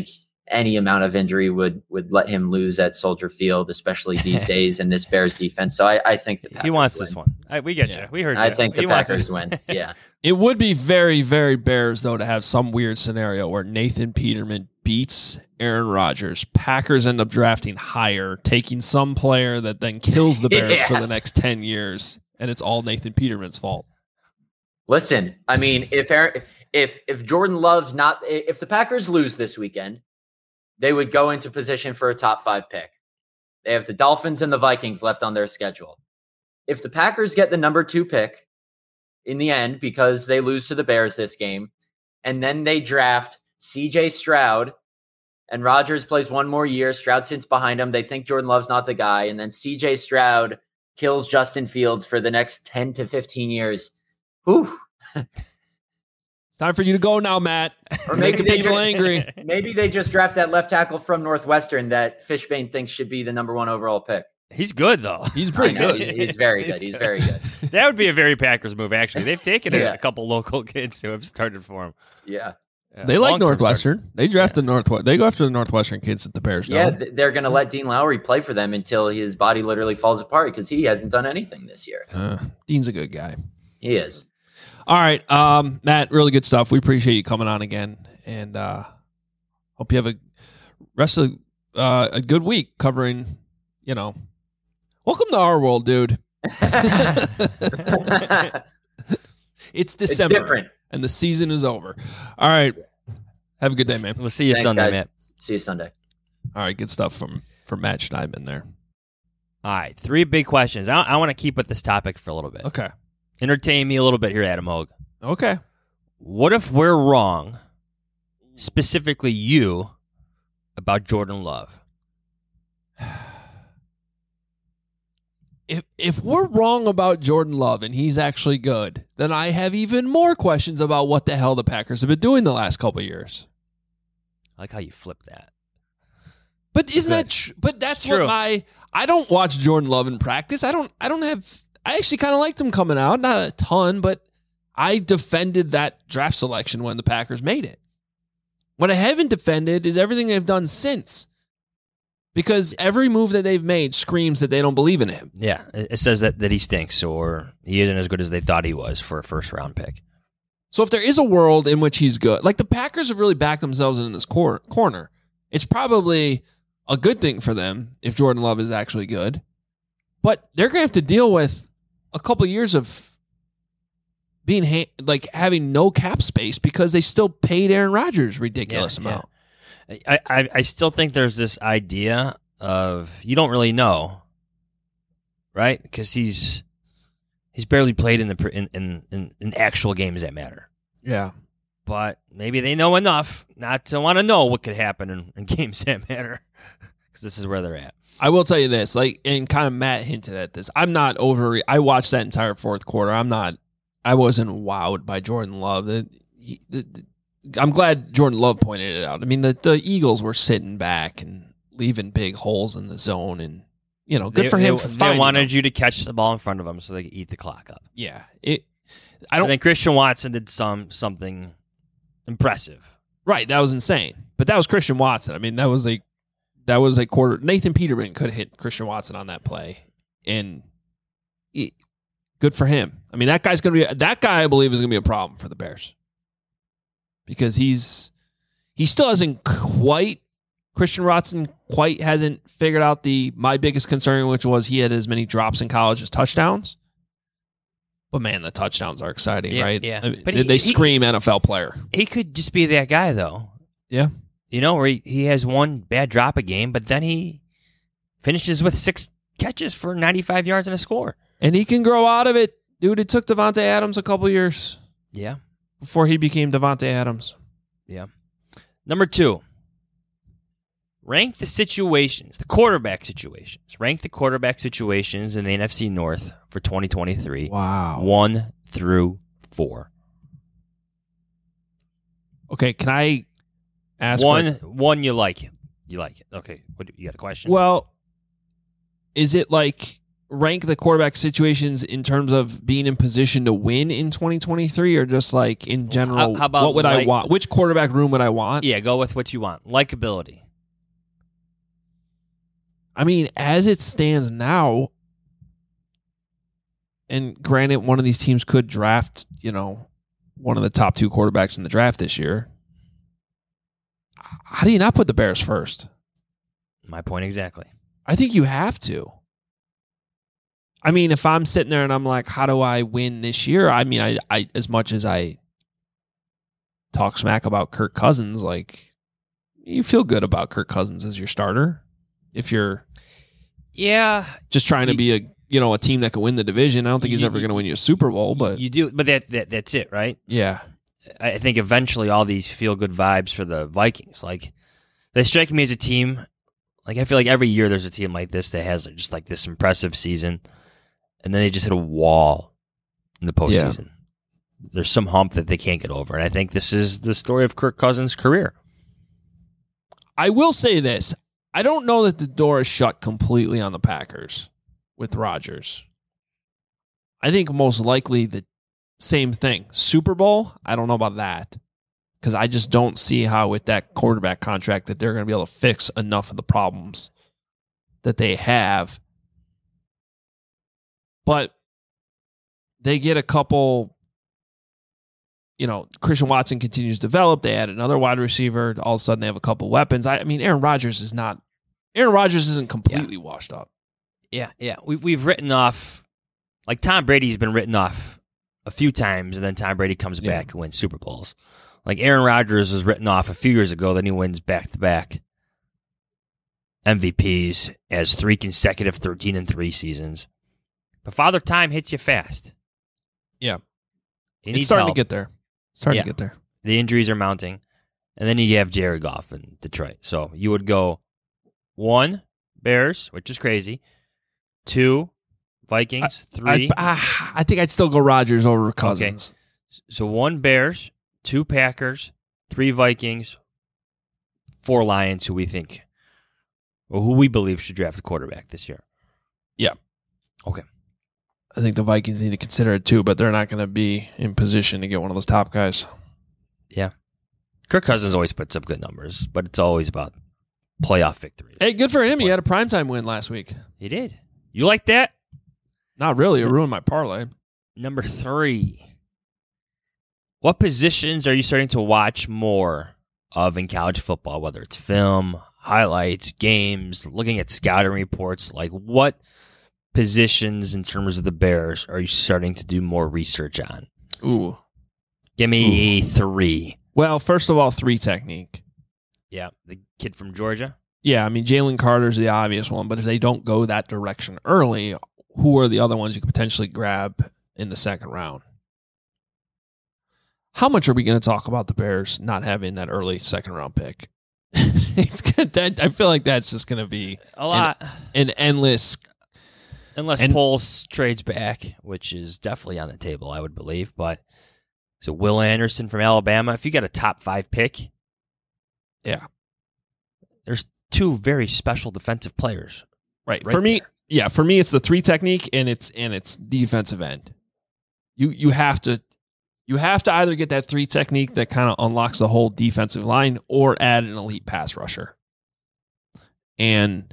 Speaker 6: any amount of injury would let him lose at Soldier Field, especially these days in this Bears defense. So I think the Packers
Speaker 5: he wants
Speaker 6: win.
Speaker 5: this one. We get you. We heard you.
Speaker 6: I think the
Speaker 5: He wants
Speaker 6: Packers
Speaker 5: this.
Speaker 6: win. Yeah.
Speaker 4: It would be very, very Bears, though, to have some weird scenario where Nathan Peterman beats Aaron Rodgers. Packers end up drafting higher, taking some player that then kills the Bears for the next 10 years, and it's all Nathan Peterman's fault.
Speaker 6: Listen, I mean, if Jordan Love's not, if the Packers lose this weekend, they would go into position for a top 5 pick. They have the Dolphins and the Vikings left on their schedule. If the Packers get the number 2 pick in the end because they lose to the Bears this game, and then they draft CJ Stroud and Rodgers plays one more year, Stroud sits behind him, they think Jordan Love's not the guy, and then CJ Stroud kills Justin Fields for the next 10 to 15 years. Whew.
Speaker 4: It's time for you to go now, Matt.
Speaker 6: Or
Speaker 4: Making people angry.
Speaker 6: Maybe they just draft that left tackle from Northwestern that Fishbane thinks should be the number 1 overall pick.
Speaker 5: He's good, though.
Speaker 4: He's pretty
Speaker 6: I know,
Speaker 4: good.
Speaker 6: He's very good. He's very good.
Speaker 5: That would be a very Packers move, actually. They've taken
Speaker 6: Yeah.
Speaker 5: a couple local kids who have started for him.
Speaker 6: Yeah.
Speaker 4: They like
Speaker 5: Long-term
Speaker 4: Northwestern.
Speaker 5: starters.
Speaker 4: They draft the Northwest. They go after the Northwestern kids that the Bears know.
Speaker 6: Yeah, they're going to let Dean Lowry play for them until his body literally falls apart because he hasn't done anything this year.
Speaker 4: Dean's a good guy.
Speaker 6: He is.
Speaker 4: All right, Matt, really good stuff. We appreciate you coming on again, and hope you have a rest of a good week covering. Welcome to our world, dude. It's December,
Speaker 6: different.
Speaker 4: and the season is over. All right, have a good day, man.
Speaker 5: We'll see you
Speaker 6: Thanks,
Speaker 5: Sunday,
Speaker 6: guys.
Speaker 5: Matt.
Speaker 6: See you Sunday.
Speaker 4: All right, good stuff from Matt Schneidman there.
Speaker 5: All right, 3 big questions. I want to keep with this topic for a little bit.
Speaker 4: Okay,
Speaker 5: Entertain me a little bit here, Adam Hogue.
Speaker 4: okay.
Speaker 5: What if we're wrong, specifically you, about Jordan Love?
Speaker 4: If we're wrong about Jordan Love and he's actually good, then I have even more questions about what the hell the Packers have been doing the last couple of years.
Speaker 5: I like how you flip that.
Speaker 4: But isn't that? But that's
Speaker 5: It's true.
Speaker 4: what I don't watch Jordan Love in practice. I actually kind of liked him coming out, not a ton, but I defended that draft selection when the Packers made it. What I haven't defended is everything they've done since. Because every move that they've made screams that they don't believe in him.
Speaker 5: Yeah, it says that he stinks or he isn't as good as they thought he was for a first-round pick.
Speaker 4: So if there is a world in which he's good, like the Packers have really backed themselves in this corner, it's probably a good thing for them if Jordan Love is actually good. But they're going to have to deal with a couple of years of being having no cap space because they still paid Aaron Rodgers ridiculous amount.
Speaker 5: I still think there's this idea of you don't really know, right? Because he's barely played in actual games that matter.
Speaker 4: Yeah.
Speaker 5: But maybe they know enough not to want to know what could happen in games that matter because this is where they're at.
Speaker 4: I will tell you this, and kind of Matt hinted at this. I'm not I watched that entire fourth quarter. I wasn't wowed by Jordan Love. I'm glad Jordan Love pointed it out. I mean, the Eagles were sitting back and leaving big holes in the zone, and good for him.
Speaker 5: They wanted you to catch the ball in front of them so they could eat the clock up.
Speaker 4: Yeah,
Speaker 5: And then Christian Watson did something impressive.
Speaker 4: Right, that was insane. But that was Christian Watson. I mean, that was a quarter. Nathan Peterman could have hit Christian Watson on that play, and good for him. I mean, that guy I believe is going to be a problem for the Bears. Because he still hasn't Christian Watson quite hasn't figured out my biggest concern, which was he had as many drops in college as touchdowns. But man, the touchdowns are exciting, right?
Speaker 5: Yeah.
Speaker 4: I mean,
Speaker 5: But
Speaker 4: they scream NFL player.
Speaker 5: He could just be that guy, though.
Speaker 4: Yeah.
Speaker 5: Where he has one bad drop a game, but then he finishes with 6 catches for 95 yards and a score.
Speaker 4: And he can grow out of it. Dude, it took Devontae Adams a couple years.
Speaker 5: Yeah.
Speaker 4: Before he became Devontae Adams.
Speaker 5: Yeah. Number 2. Rank the situations, the quarterback situations. Rank the quarterback situations in the NFC North for 2023.
Speaker 4: Wow.
Speaker 5: 1 through 4.
Speaker 4: Okay, can I ask
Speaker 5: one you like it. You like it. Okay. What, you got a question?
Speaker 4: Well, is it like rank the quarterback situations in terms of being in position to win in 2023, or just like in general?
Speaker 5: How about
Speaker 4: what would I want? Which quarterback room would I want?
Speaker 5: Yeah, go with what you want. Likability.
Speaker 4: I mean, as it stands now, and granted, one of these teams could draft, one of the top 2 quarterbacks in the draft this year. How do you not put the Bears first?
Speaker 5: My point exactly.
Speaker 4: I think you have to. I mean, if I'm sitting there and I'm like, how do I win this year? I mean, I as much as I talk smack about Kirk Cousins, like, you feel good about Kirk Cousins as your starter if you're just trying to be a team that can win the division. I don't think he's ever going to win you a Super Bowl, but
Speaker 5: you do. But that's it, right?
Speaker 4: Yeah.
Speaker 5: I think eventually all these feel good vibes for the Vikings. Like, they strike me as a team. Like, I feel like every year there's a team like this that has just like this impressive season, and then they just hit a wall in the postseason. Yeah. There's some hump that they can't get over, and I think this is the story of Kirk Cousins' career.
Speaker 4: I will say this. I don't know that the door is shut completely on the Packers with Rodgers. I think most likely the same thing. Super Bowl, I don't know about that, because I just don't see how with that quarterback contract that they're going to be able to fix enough of the problems that they have. But they get a couple, Christian Watson continues to develop. They add another wide receiver. All of a sudden they have a couple weapons. I mean, Aaron Rodgers isn't completely washed up.
Speaker 5: Yeah. We've written off, like Tom Brady's been written off a few times, and then Tom Brady comes back and wins Super Bowls. Like Aaron Rodgers was written off a few years ago, then he wins back-to-back MVPs as 3 consecutive 13-3 seasons. But Father Time hits you fast.
Speaker 4: Yeah.
Speaker 5: It's
Speaker 4: starting
Speaker 5: help.
Speaker 4: To get there. Starting to get there.
Speaker 5: The injuries are mounting. And then you have Jared Goff in Detroit. So you would go 1, Bears, which is crazy. 2, Vikings. 3.
Speaker 4: I think I'd still go Rodgers over Cousins.
Speaker 5: Okay. So 1, Bears. 2, Packers. 3, Vikings. 4, Lions, who we believe should draft the quarterback this year.
Speaker 4: Yeah.
Speaker 5: Okay.
Speaker 4: I think the Vikings need to consider it too, but they're not going to be in position to get one of those top guys.
Speaker 5: Yeah. Kirk Cousins always puts up good numbers, but it's always about playoff victories.
Speaker 4: Hey, good for him. He had a primetime win last week.
Speaker 5: He did. You like that?
Speaker 4: Not really. It ruined my parlay.
Speaker 5: Number 3. What positions are you starting to watch more of in college football, whether it's film, highlights, games, looking at scouting reports? Like, what positions in terms of the Bears are you starting to do more research on?
Speaker 4: Ooh.
Speaker 5: Give me 3.
Speaker 4: Well, first of all, 3 technique.
Speaker 5: Yeah, the kid from Georgia.
Speaker 4: Yeah, I mean, Jalen Carter's the obvious one, but if they don't go that direction early, who are the other ones you could potentially grab in the second round? How much are we going to talk about the Bears not having that early second round pick? It's gonna, I feel like that's just going to be
Speaker 5: a lot.
Speaker 4: An endless.
Speaker 5: Unless Poles trades back, which is definitely on the table, I would believe. But so Will Anderson from Alabama, if you got a top 5 pick,
Speaker 4: yeah,
Speaker 5: there's 2 very special defensive players.
Speaker 4: Right. For me, it's the 3 technique and it's defensive end. You have to either get that 3 technique that kind of unlocks the whole defensive line or add an elite pass rusher. And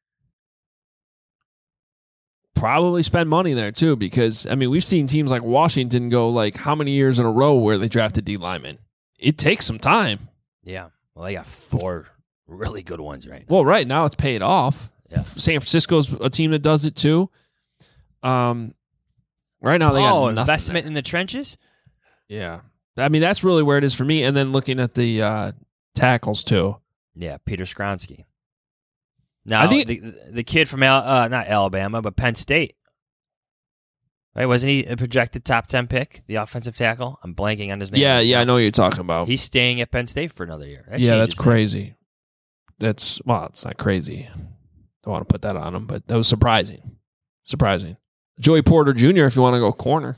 Speaker 4: probably spend money there too, because I mean, we've seen teams like Washington go like how many years in a row where they drafted D linemen. It takes some time.
Speaker 5: Yeah. Well, they got 4 really good ones right now.
Speaker 4: Well, right now it's paid off.
Speaker 5: Yeah.
Speaker 4: San Francisco's a team that does it too. Right now they got nothing
Speaker 5: investment
Speaker 4: there.
Speaker 5: In the trenches?
Speaker 4: Yeah. I mean, that's really where it is for me. And then looking at the tackles too.
Speaker 5: Yeah, Peter Skronsky. Now,
Speaker 4: I think
Speaker 5: the kid from not Alabama, but Penn State. Right? Wasn't he a projected top 10 pick, the offensive tackle? I'm blanking on his name.
Speaker 4: Yeah, I know what you're talking about.
Speaker 5: He's staying at Penn State for another year.
Speaker 4: That's crazy. It's not crazy. Don't want to put that on him, but that was surprising. Joey Porter Jr., if you want to go corner.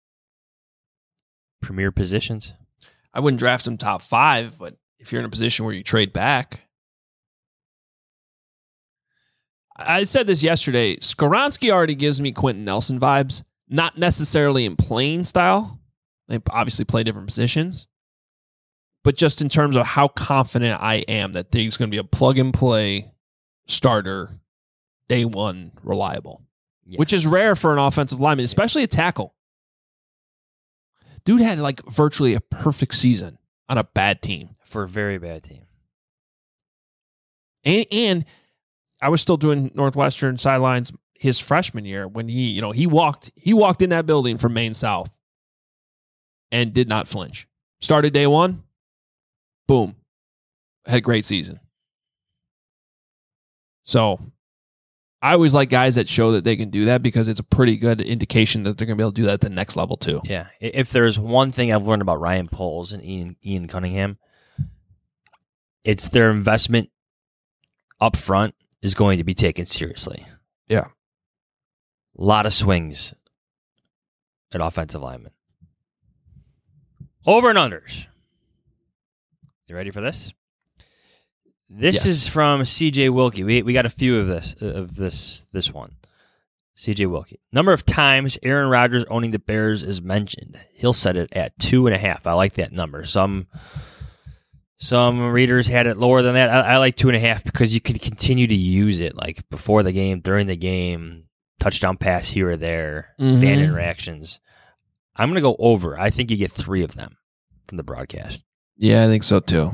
Speaker 5: Premier positions.
Speaker 4: I wouldn't draft him top 5, but if you're in a position where you trade back, I said this yesterday. Skoronski already gives me Quentin Nelson vibes, not necessarily in playing style. They obviously play different positions, but just in terms of how confident I am that he's going to be a plug-and-play starter, day one, reliable, which is rare for an offensive lineman, especially a tackle. Dude had like virtually a perfect season on a bad team.
Speaker 5: For a very bad team.
Speaker 4: And I was still doing Northwestern sidelines his freshman year when he walked in that building from Maine South and did not flinch. Started day one, boom, had a great season. So I always like guys that show that they can do that because it's a pretty good indication that they're going to be able to do that at the next level too.
Speaker 5: Yeah. If there's one thing I've learned about Ryan Poles and Ian Cunningham, it's their investment up front is going to be taken seriously.
Speaker 4: Yeah.
Speaker 5: A lot of swings at offensive linemen. Over and unders. You ready for this? This is from CJ Wilkie. We got a few of this one. CJ Wilkie. Number of times Aaron Rodgers owning the Bears is mentioned. He'll set it at 2.5. I like that number. Some readers had it lower than that. I like 2.5 because you could continue to use it like before the game, during the game, touchdown pass here or there, fan interactions. I'm going to go over. I think you get 3 of them from the broadcast.
Speaker 4: Yeah, I think so too.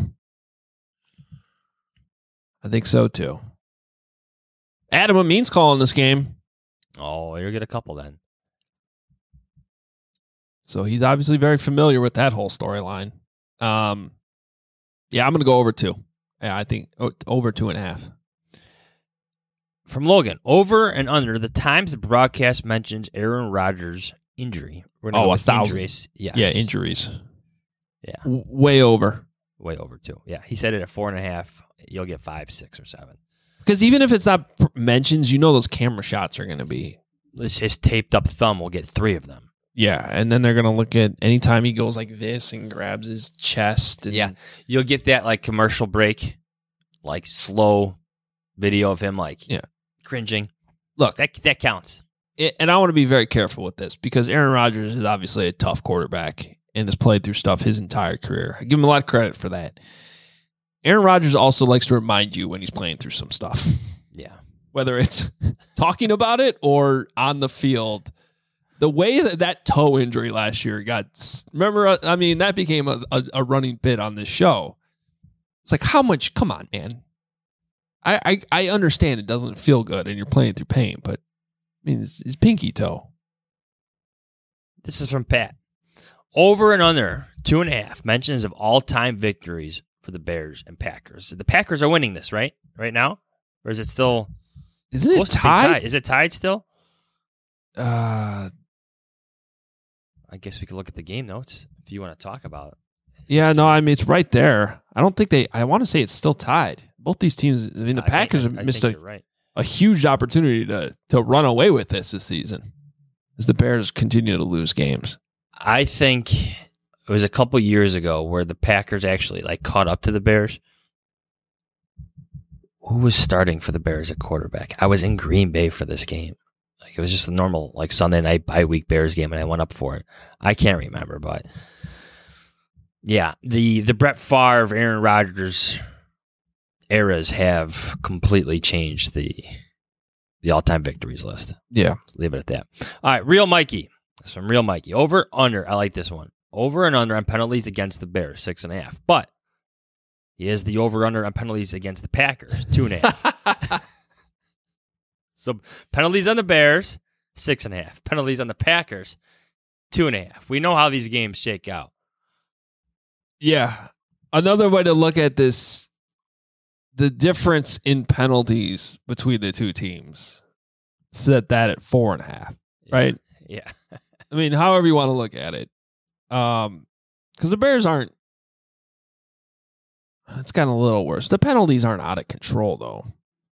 Speaker 4: Adam Amin's calling this game.
Speaker 5: Oh, you'll get a couple then.
Speaker 4: So he's obviously very familiar with that whole storyline. Yeah, I'm going to go over 2. Yeah, I think over 2.5.
Speaker 5: From Logan, over and under the times the broadcast mentions Aaron Rodgers' injury.
Speaker 4: 1,000.
Speaker 5: Injuries. Yes.
Speaker 4: Yeah, injuries.
Speaker 5: Yeah.
Speaker 4: Way over.
Speaker 5: Way over, too. Yeah, he said it at 4.5. You'll get 5, 6, or 7.
Speaker 4: Because even if it's not mentions, those camera shots are going to be.
Speaker 5: His taped up thumb will get 3 of them.
Speaker 4: Yeah, and then they're going to look at anytime he goes like this and grabs his chest. And,
Speaker 5: yeah, you'll get that like commercial break, like slow video of him like cringing.
Speaker 4: Look,
Speaker 5: that counts.
Speaker 4: And I want to be very careful with this because Aaron Rodgers is obviously a tough quarterback and has played through stuff his entire career. I give him a lot of credit for that. Aaron Rodgers also likes to remind you when he's playing through some stuff.
Speaker 5: Yeah. Whether
Speaker 4: it's talking about it or on the field. The way that toe injury last year that became a running bit on this show. It's like, how much? Come on, man. I understand it doesn't feel good and you're playing through pain, but I mean, it's pinky toe.
Speaker 5: This is from Pat. Over and under 2.5 mentions of all-time victories for the Bears and Packers. The Packers are winning this, right? Right now? Or is it still...
Speaker 4: Isn't it tied?
Speaker 5: Is it tied still?
Speaker 4: I
Speaker 5: guess we could look at the game notes if you want to talk about it.
Speaker 4: Yeah, no, I mean, it's right there. I don't think I want to say it's still tied. Both these teams, I mean, the Packers have missed a huge opportunity to run away with this season as the Bears continue to lose games.
Speaker 5: I think it was a couple years ago where the Packers actually like caught up to the Bears. Who was starting for the Bears at quarterback? I was in Green Bay for this game. Like it was just a normal like Sunday night bye-week Bears game, and I went up for it. I can't remember, but yeah, the Brett Favre, Aaron Rodgers eras have completely changed the all-time victories list.
Speaker 4: Yeah,
Speaker 5: leave it at that. All right, Real Mikey. That's from Real Mikey. Over, under. I like this one. Over and under on penalties against the Bears, 6.5. But he has the over-under on penalties against the Packers, 2.5. So penalties on the Bears, 6.5. Penalties on the Packers, 2.5. We know how these games shake out.
Speaker 4: Yeah. Another way to look at this, the difference in penalties between the two teams, set that at 4.5, right?
Speaker 5: Yeah.
Speaker 4: I mean, however you want to look at it. Because the Bears aren't, it's gotten a little worse. The penalties aren't out of control, though.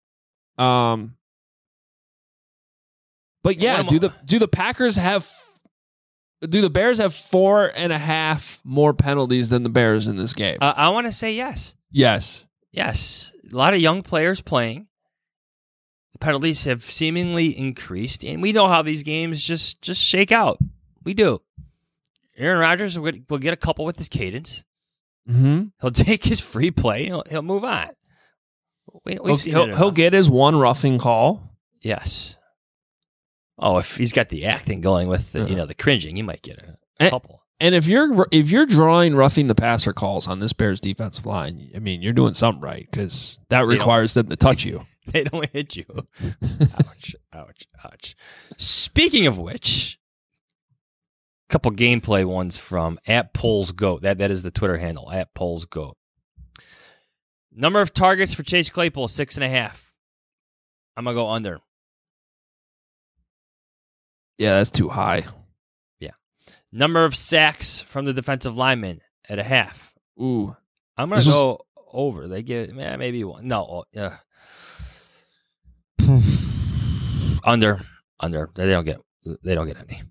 Speaker 4: But yeah, do the Packers have, do the Bears have 4.5 more penalties than the Bears in this game?
Speaker 5: I want to say yes.
Speaker 4: Yes.
Speaker 5: Yes. A lot of young players playing. The penalties have seemingly increased, and we know how these games just shake out. We do. Aaron Rodgers will get a couple with his cadence.
Speaker 4: Mm-hmm.
Speaker 5: He'll take his free play. He'll move on.
Speaker 4: He'll get his one roughing call.
Speaker 5: Yes. Oh, if he's got the acting going with the cringing, he might get a couple.
Speaker 4: And if you're drawing roughing the passer calls on this Bears defensive line, I mean, you're doing something right because that requires them to touch you.
Speaker 5: They don't hit you. Ouch. Speaking of which, a couple gameplay ones from @PolesGoat. That is the Twitter handle, @PolesGoat. Number of targets for Chase Claypool, 6.5. I'm going to go under.
Speaker 4: Yeah, that's too high.
Speaker 5: Yeah. Number of sacks from the defensive linemen at 0.5.
Speaker 4: Ooh.
Speaker 5: I'm going to go over. They get maybe one. No. Under. They don't get any.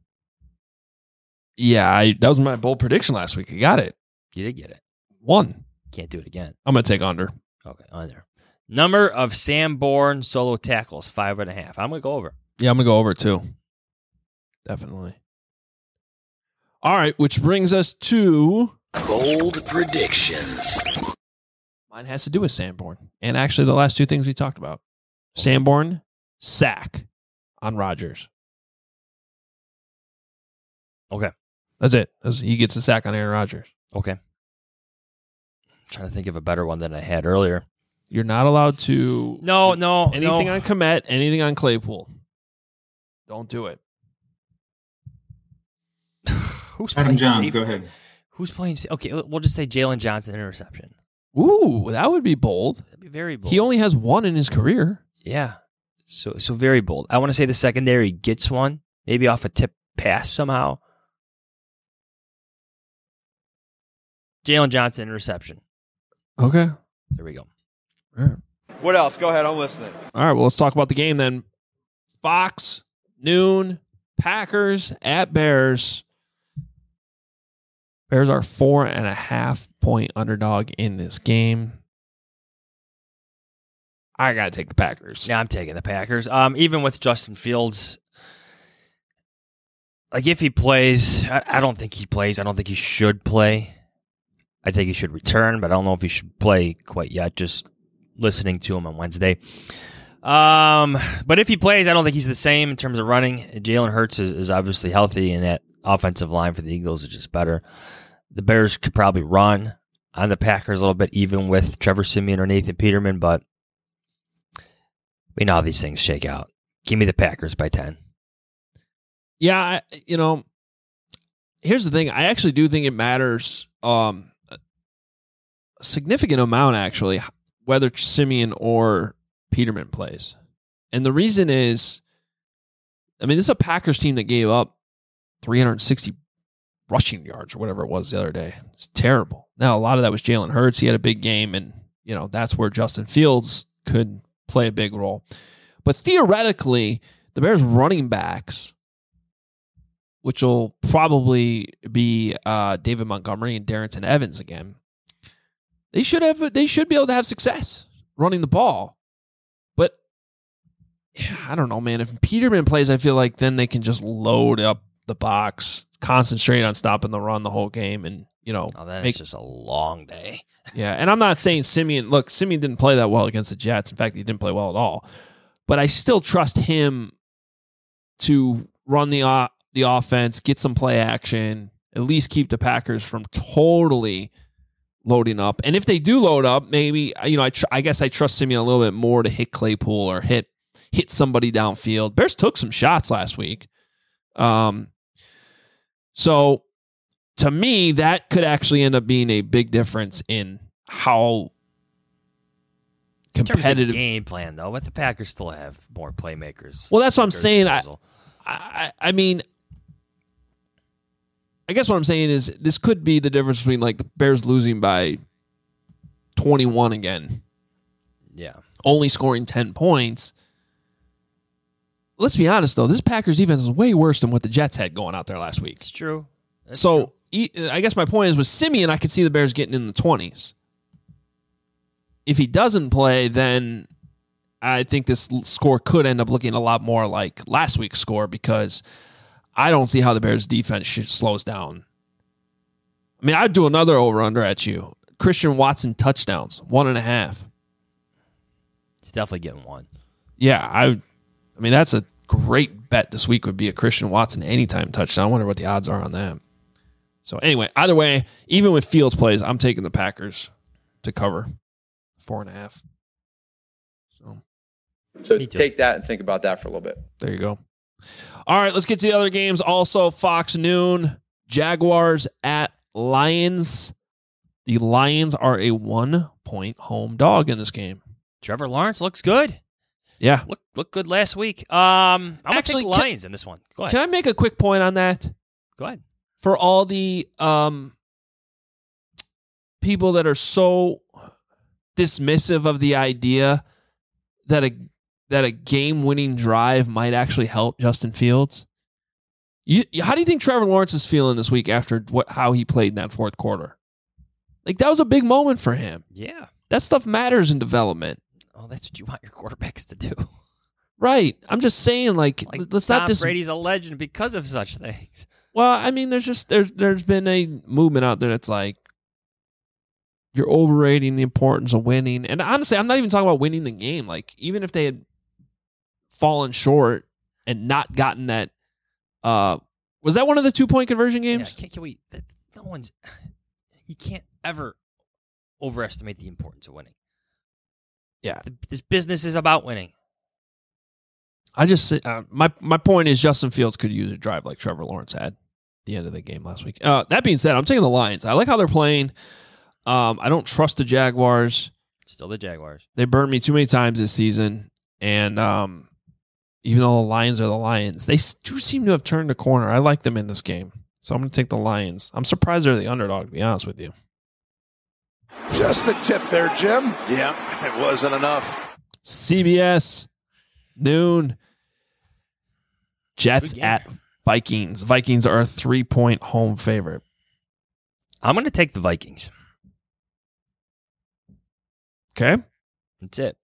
Speaker 4: Yeah, that was my bold prediction last week. I got it.
Speaker 5: You did get it.
Speaker 4: 1.
Speaker 5: Can't do it again.
Speaker 4: I'm going to take under.
Speaker 5: Okay, under. Number of Sanborn solo tackles, 5.5. I'm going to go over.
Speaker 4: Yeah, I'm going to go over too. Definitely. All right, which brings us to
Speaker 3: Bold predictions.
Speaker 4: mine has to do with Sanborn. And actually the last two things we talked about. Sanborn, sack on Rodgers.
Speaker 5: Okay.
Speaker 4: That's it. He gets a sack on Aaron Rodgers.
Speaker 5: Okay. I'm trying to think of a better one than I had earlier.
Speaker 4: You're not allowed to
Speaker 5: No.
Speaker 4: anything on Kmet, anything on Claypool. Don't do it.
Speaker 5: Who's
Speaker 7: Adam
Speaker 5: playing
Speaker 7: Johns,
Speaker 5: safe?
Speaker 7: go ahead.
Speaker 5: Who's playing? Okay, we'll just say Jalen Johnson interception.
Speaker 4: Ooh, that would be bold.
Speaker 5: That'd be very bold.
Speaker 4: He only has one in his career.
Speaker 5: Yeah. So very bold. I want to say the secondary gets one, maybe off a tip pass somehow. Jalen Johnson interception.
Speaker 4: Okay.
Speaker 5: There we go.
Speaker 4: All right.
Speaker 8: What else? Go ahead. I'm listening.
Speaker 4: All right, well, let's talk about the game then. Fox, noon, Packers at Bears. Bears are 4.5-point underdog in this game. I got to take the Packers.
Speaker 5: Yeah, I'm taking the Packers. Even with Justin Fields, like if he plays, I don't think he plays. I don't think he should play. I think he should return, but I don't know if he should play quite yet. Just listening to him on Wednesday. But if he plays, I don't think he's the same in terms of running. Jalen Hurts is obviously healthy, and that offensive line for the Eagles is just better. The Bears could probably run on the Packers a little bit, even with Trevor Siemian or Nathan Peterman, but we know how these things shake out. Give me the Packers by 10.
Speaker 4: Yeah, here's the thing. I actually do think it matters a significant amount, actually, whether Siemian or Peterman plays. And the reason is, this is a Packers team that gave up 360 rushing yards or whatever it was the other day. It's terrible. Now, a lot of that was Jalen Hurts. He had a big game, and, that's where Justin Fields could play a big role. But theoretically, the Bears running backs, which will probably be David Montgomery and Darrington Evans again, they should be able to have success running the ball. But I don't know, man. If Peterman plays, I feel like then they can just load up the box, concentrate on stopping the run the whole game, and
Speaker 5: It's just a long day.
Speaker 4: Yeah, and I'm not saying Siemian. Look, Siemian didn't play that well against the Jets. In fact, he didn't play well at all. But I still trust him to run the offense, get some play action, at least keep the Packers from totally loading up. And if they do load up, maybe I guess I trust Siemian a little bit more to hit Claypool or hit somebody downfield. Bears took some shots last week. So to me, that could actually end up being a big difference in how competitive.
Speaker 5: In terms of game plan, though, but the Packers still have more playmakers.
Speaker 4: Well, that's what I'm saying. I guess what I'm saying is this could be the difference between like the Bears losing by 21 again.
Speaker 5: Yeah.
Speaker 4: Only scoring 10 points. Let's be honest, though. This Packers defense is way worse than what the Jets had going out there last week.
Speaker 5: It's true. That's
Speaker 4: so
Speaker 5: true.
Speaker 4: I guess my point is with Siemian, I could see the Bears getting in the 20s. If he doesn't play, then I think this score could end up looking a lot more like last week's score because I don't see how the Bears defense slows down. I mean, I'd do another over-under at you. Christian Watson touchdowns, 1.5.
Speaker 5: He's definitely getting one.
Speaker 4: Yeah, I mean, that's a great bet this week would be a Christian Watson anytime touchdown. I wonder what the odds are on that. So anyway, either way, even with Fields plays, I'm taking the Packers to cover 4.5.
Speaker 8: So take that and think about that for a little bit.
Speaker 4: There you go. All right, let's get to the other games. Also, Fox Noon, Jaguars at Lions. The Lions are a 1-point home dog in this game.
Speaker 5: Trevor Lawrence looks good.
Speaker 4: Yeah.
Speaker 5: Look good last week. I'm going to take the Lions in this one. Go ahead.
Speaker 4: Can I make a quick point on that?
Speaker 5: Go ahead.
Speaker 4: For all the people that are so dismissive of the idea that a game-winning drive might actually help Justin Fields, how do you think Trevor Lawrence is feeling this week after how he played in that fourth quarter? Like, that was a big moment for him.
Speaker 5: Yeah.
Speaker 4: That stuff matters in development.
Speaker 5: Oh, that's what you want your quarterbacks to do.
Speaker 4: Right. I'm just saying, like let's
Speaker 5: Tom
Speaker 4: not
Speaker 5: Brady's a legend because of such things.
Speaker 4: Well, I mean, there's been a movement out there that's like you're overrating the importance of winning. And honestly, I'm not even talking about winning the game. Like, even if they had fallen short and not gotten that, was that one of the 2-point conversion games?
Speaker 5: Yeah, can we? You can't ever overestimate the importance of winning.
Speaker 4: Yeah,
Speaker 5: this business is about winning.
Speaker 4: I just my point is Justin Fields could use a drive like Trevor Lawrence had at the end of the game last week. That being said, I'm taking the Lions. I like how they're playing. I don't trust the Jaguars.
Speaker 5: Still the Jaguars.
Speaker 4: They burned me too many times this season, and even though the Lions are the Lions, they do seem to have turned the corner. I like them in this game, so I'm going to take the Lions. I'm surprised they're the underdog, to be honest with you.
Speaker 2: Just the tip there, Jim. Yeah, it wasn't enough.
Speaker 4: CBS, noon. Jets at Vikings. Vikings are a 3-point home favorite.
Speaker 5: I'm going to take the Vikings.
Speaker 4: Okay.
Speaker 5: That's it.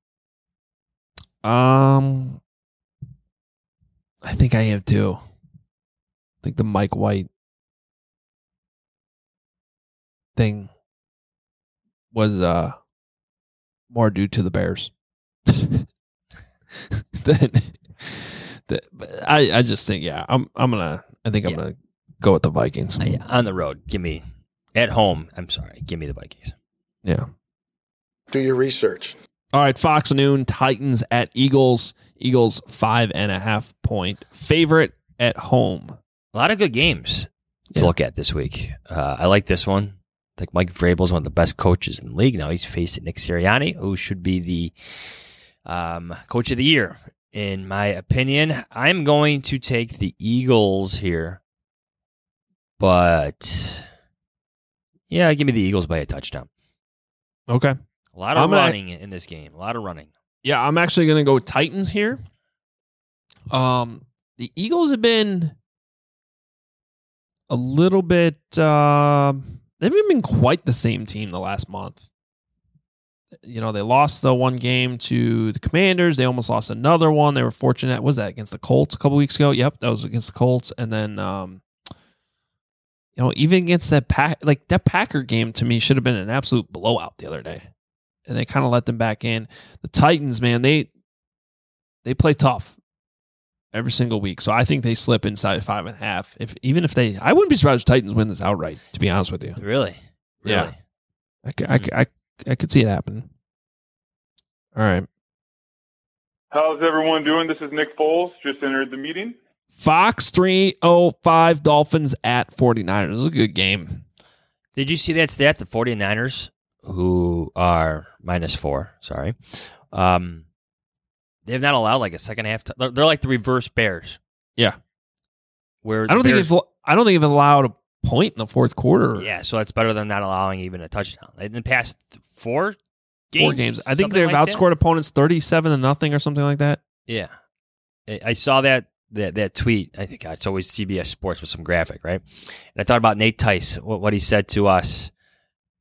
Speaker 4: I think I am too. I think the Mike White thing was more due to the Bears. I just think, yeah, I'm gonna go with the Vikings.
Speaker 5: On the road, give me the Vikings.
Speaker 4: Yeah.
Speaker 7: Do your research.
Speaker 4: All right, Fox Noon, Titans at Eagles. Eagles 5.5-point favorite at home.
Speaker 5: A lot of good games to look at this week. I like this one. I think Mike Vrabel is one of the best coaches in the league. Now he's facing Nick Sirianni, who should be the coach of the year, in my opinion. I'm going to take the Eagles here. But, yeah, give me the Eagles by a touchdown.
Speaker 4: Okay.
Speaker 5: A lot of running in this game. A lot of running.
Speaker 4: Yeah, I'm actually going to go Titans here. The Eagles have been a little bit... they haven't been quite the same team the last month. You know, they lost the one game to the Commanders. They almost lost another one. They were fortunate. Was that against the Colts a couple weeks ago? Yep, that was against the Colts. And then, even against that Packer game to me should have been an absolute blowout the other day. And they kind of let them back in. The Titans, man, they play tough every single week. So I think they slip inside 5.5. I wouldn't be surprised if Titans win this outright, to be honest with you.
Speaker 5: Really?
Speaker 4: Yeah. I could see it happen. All right.
Speaker 9: How's everyone doing? This is Nick Foles. Just entered the meeting.
Speaker 4: Fox 305 Dolphins at 49ers. This is a good game.
Speaker 5: Did you see that stat? The 49ers, who are -4, they've not allowed like a second half. They're like the reverse Bears.
Speaker 4: Yeah.
Speaker 5: Where
Speaker 4: I don't think they've allowed a point in the fourth quarter.
Speaker 5: Yeah, so that's better than not allowing even a touchdown. In the past 4 games?
Speaker 4: 4 games. I think they've outscored opponents 37-0 or something like that.
Speaker 5: Yeah. I saw that tweet. I think it's always CBS Sports with some graphic, right? And I thought about Nate Tice, what he said to us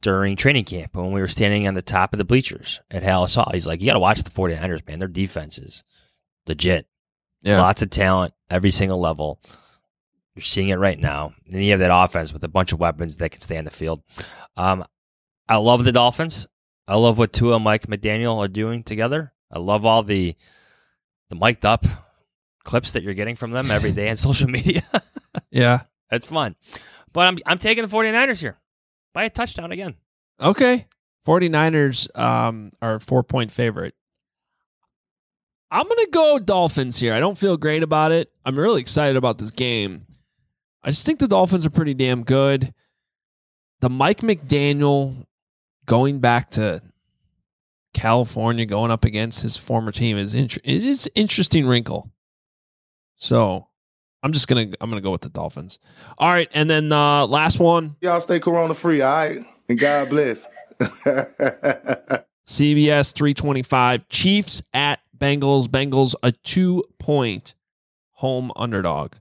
Speaker 5: during training camp when we were standing on the top of the bleachers at Halas Hall. He's like, you got to watch the 49ers, man. Their defense is legit.
Speaker 4: Yeah.
Speaker 5: Lots of talent, every single level. You're seeing it right now. And then you have that offense with a bunch of weapons that can stay on the field. I love the Dolphins. I love what Tua and Mike McDaniel are doing together. I love all the mic'd up clips that you're getting from them every day on social media.
Speaker 4: Yeah.
Speaker 5: That's fun. But I'm taking the 49ers here by a touchdown again.
Speaker 4: Okay. 49ers are a 4-point favorite. I'm going to go Dolphins here. I don't feel great about it. I'm really excited about this game. I just think the Dolphins are pretty damn good. The Mike McDaniel going back to California, going up against his former team is interesting wrinkle. So I'm gonna go with the Dolphins. All right, and then last one.
Speaker 10: Y'all stay corona free, all right? And God bless.
Speaker 4: CBS 325. Chiefs at Bengals. Bengals a 2-point home underdog.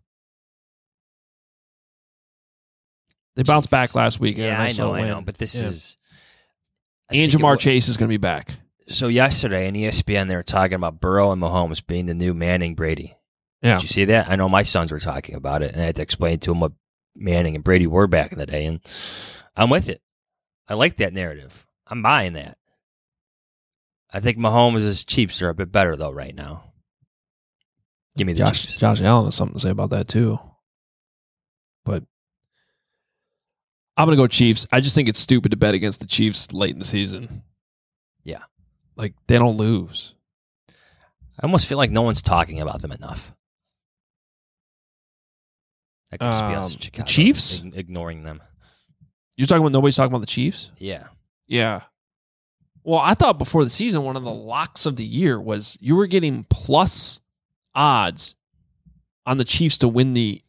Speaker 4: They bounced back last week.
Speaker 5: Yeah, I know. But this is...
Speaker 4: And Jamar Chase is going to be back.
Speaker 5: So yesterday in ESPN, they were talking about Burrow and Mahomes being the new Manning Brady.
Speaker 4: Yeah.
Speaker 5: Did you see that? I know my sons were talking about it, and I had to explain to them what Manning and Brady were back in the day, and I'm with it. I like that narrative. I'm buying that. I think Mahomes' Chiefs are a bit better, though, right now. Give me the Chiefs.
Speaker 4: Josh Allen has something to say about that, too. But I'm going to go Chiefs. I just think it's stupid to bet against the Chiefs late in the season.
Speaker 5: Yeah.
Speaker 4: Like, they don't lose.
Speaker 5: I almost feel like no one's talking about them enough. That could just be us in Chicago,
Speaker 4: the Chiefs?
Speaker 5: Ignoring them.
Speaker 4: You're talking about nobody's talking about the Chiefs?
Speaker 5: Yeah.
Speaker 4: Yeah. Well, I thought before the season, one of the locks of the year was you were getting plus odds on the Chiefs to win the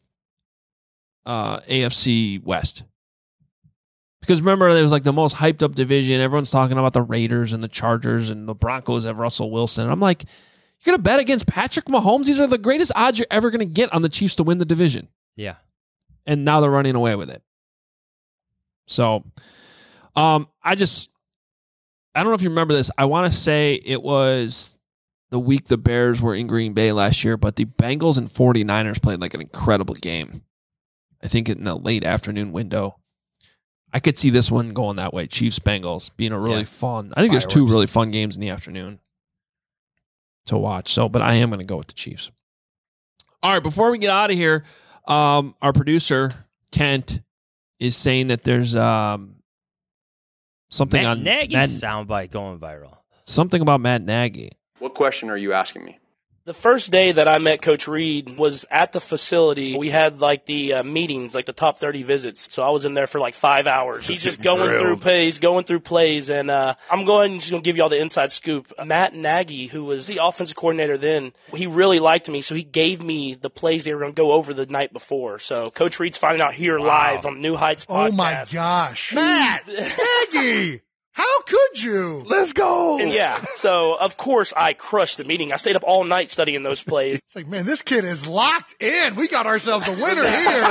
Speaker 4: AFC West. Because remember, it was like the most hyped up division. Everyone's talking about the Raiders and the Chargers and the Broncos have Russell Wilson. I'm like, you're going to bet against Patrick Mahomes? These are the greatest odds you're ever going to get on the Chiefs to win the division.
Speaker 5: Yeah.
Speaker 4: And now they're running away with it. So, I don't know if you remember this. I want to say it was the week the Bears were in Green Bay last year, but the Bengals and 49ers played like an incredible game. I think in the late afternoon window. I could see this one going that way. Chiefs-Bengals being a really fun. I think there's two really fun games in the afternoon to watch. So, but I am going to go with the Chiefs. All right, before we get out of here, our producer, Kent, is saying that there's something
Speaker 5: Matt
Speaker 4: on
Speaker 5: Nagy's soundbite going viral.
Speaker 4: Something about Matt Nagy.
Speaker 8: What question are you asking me?
Speaker 11: The first day that I met Coach Reed was at the facility. We had like the meetings, like the top 30 visits. So I was in there for like 5 hours. He's just going through plays, and I'm just going to give you all the inside scoop. Matt Nagy, who was the offensive coordinator then, he really liked me, so he gave me the plays they were going to go over the night before. So Coach Reed's finding out here live on New Heights podcast.
Speaker 12: Oh my gosh. Matt Nagy! How could you?
Speaker 2: Let's go.
Speaker 11: And yeah, so of course I crushed the meeting. I stayed up all night studying those plays.
Speaker 12: It's like, man, this kid is locked in. We got ourselves a winner here.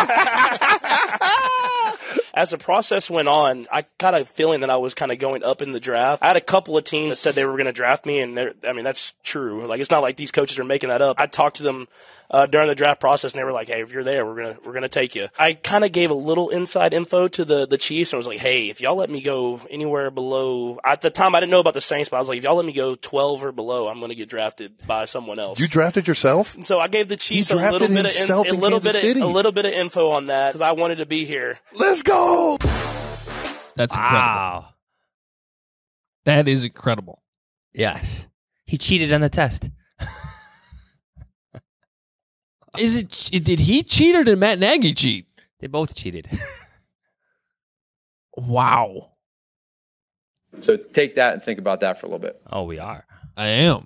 Speaker 11: As the process went on, I got a feeling that I was kind of going up in the draft. I had a couple of teams that said they were going to draft me, and that's true. Like, it's not like these coaches are making that up. I talked to them during the draft process, and they were like, "Hey, if you're there, we're gonna take you." I kind of gave a little inside info to the Chiefs, and I was like, "Hey, if y'all let me go anywhere below," at the time I didn't know about the Saints, but I was like, "If y'all let me go 12 or below, I'm going to get drafted by someone else."
Speaker 2: You drafted yourself?
Speaker 11: And so I gave the Chiefs a little bit of info on that because I wanted to be here.
Speaker 2: Let's go.
Speaker 4: That's incredible. Wow. That is incredible.
Speaker 5: Yes. He cheated on the test.
Speaker 4: Did he cheat or did Matt Nagy cheat?
Speaker 5: They both cheated.
Speaker 4: Wow.
Speaker 8: So take that and think about that for a little bit.
Speaker 5: Oh, we are.
Speaker 4: I am.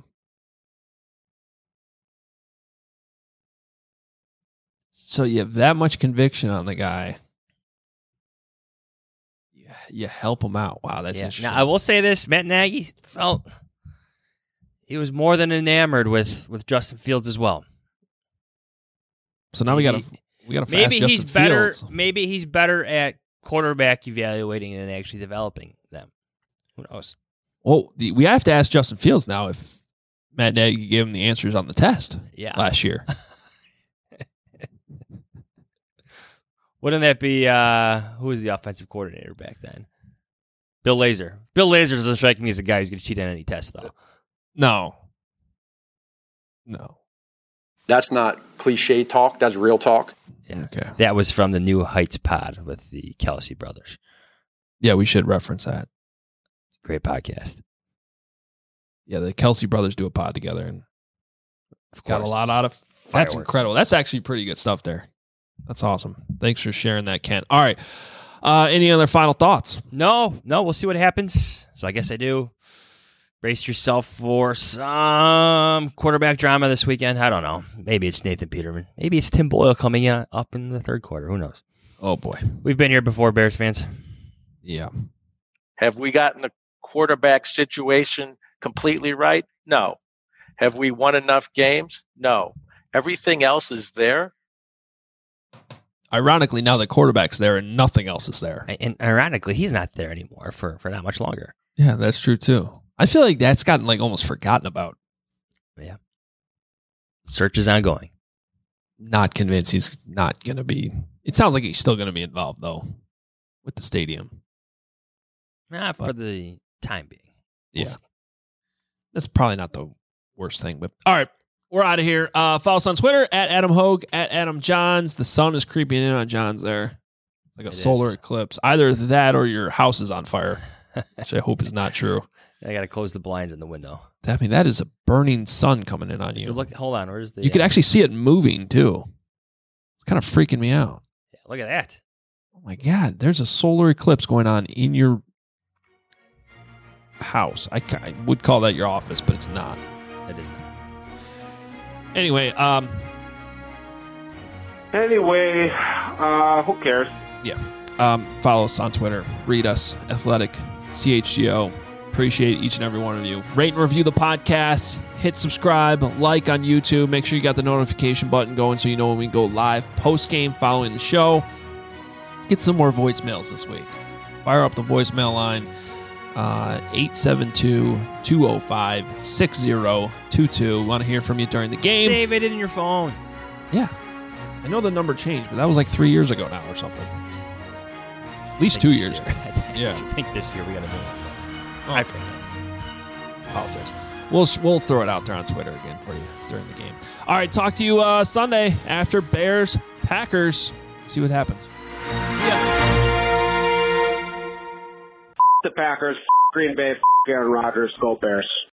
Speaker 4: So you have that much conviction on the guy. You help him out. Wow, that's interesting.
Speaker 5: Now, I will say this. Matt Nagy felt he was more than enamored with Justin Fields as well.
Speaker 4: So now we got to fast Justin Fields.
Speaker 5: Maybe he's better at quarterback evaluating and actually developing them. Who knows?
Speaker 4: Well, we have to ask Justin Fields now if Matt Nagy gave him the answers on the test last year.
Speaker 5: Wouldn't that be, who was the offensive coordinator back then? Bill Lazor. Bill Lazor doesn't strike me as a guy who's going to cheat on any test, though.
Speaker 4: No.
Speaker 13: That's not cliche talk. That's real talk.
Speaker 5: Yeah. Okay. That was from the New Heights pod with the Kelsey brothers.
Speaker 4: Yeah, we should reference that.
Speaker 5: Great podcast.
Speaker 4: Yeah, the Kelsey brothers do a pod together and got a lot out of. That's incredible. That's actually pretty good stuff there. That's awesome. Thanks for sharing that, Ken. All right. Any other final thoughts?
Speaker 5: No. We'll see what happens. So I guess I do. Brace yourself for some quarterback drama this weekend. I don't know. Maybe it's Nathan Peterman. Maybe it's Tim Boyle coming up in the third quarter. Who knows?
Speaker 4: Oh, boy.
Speaker 5: We've been here before, Bears fans.
Speaker 4: Yeah.
Speaker 14: Have we gotten the quarterback situation completely right? No. Have we won enough games? No. Everything else is there.
Speaker 4: Ironically, now the quarterback's there and nothing else is there.
Speaker 5: And ironically, he's not there anymore for not much longer.
Speaker 4: Yeah, that's true, too. I feel like that's gotten almost forgotten about.
Speaker 5: Yeah. Search is ongoing.
Speaker 4: Not convinced he's not going to be. It sounds like he's still going to be involved, though, with the stadium.
Speaker 5: For the time being.
Speaker 4: We'll see. That's probably not the worst thing. But all right, we're out of here. Follow us on Twitter at Adam Hogue, at Adam Johns. The sun is creeping in on Johns there. Like a solar eclipse. Either that or your house is on fire, which I hope is not true.
Speaker 5: I got to close the blinds in the window.
Speaker 4: I mean, that is a burning sun coming in on you.
Speaker 5: So look, hold on. Where's the?
Speaker 4: You could actually see it moving too. It's kind of freaking me out.
Speaker 5: Yeah, look at that.
Speaker 4: Oh my God! There's a solar eclipse going on in your house. I would call that your office, but it's not.
Speaker 5: It is not.
Speaker 4: Anyway,
Speaker 9: who cares?
Speaker 4: Yeah. Follow us on Twitter. Read us. Athletic CHGO. Appreciate each and every one of you. Rate and review the podcast. Hit subscribe. Like on YouTube. Make sure you got the notification button going so you know when we go live post-game following the show. Get some more voicemails this week. Fire up the voicemail line. 872-205-6022. Want to hear from you during the game.
Speaker 5: Save it in your phone.
Speaker 4: Yeah. I know the number changed, but that was like 3 years ago now or something. At least 2 years ago.
Speaker 5: I think this year we got to move it. I forget.
Speaker 4: Apologize. We'll throw it out there on Twitter again for you during the game. All right, talk to you Sunday after Bears Packers. See what happens. See ya.
Speaker 15: The Packers, Green Bay, Aaron Rodgers, go Bears.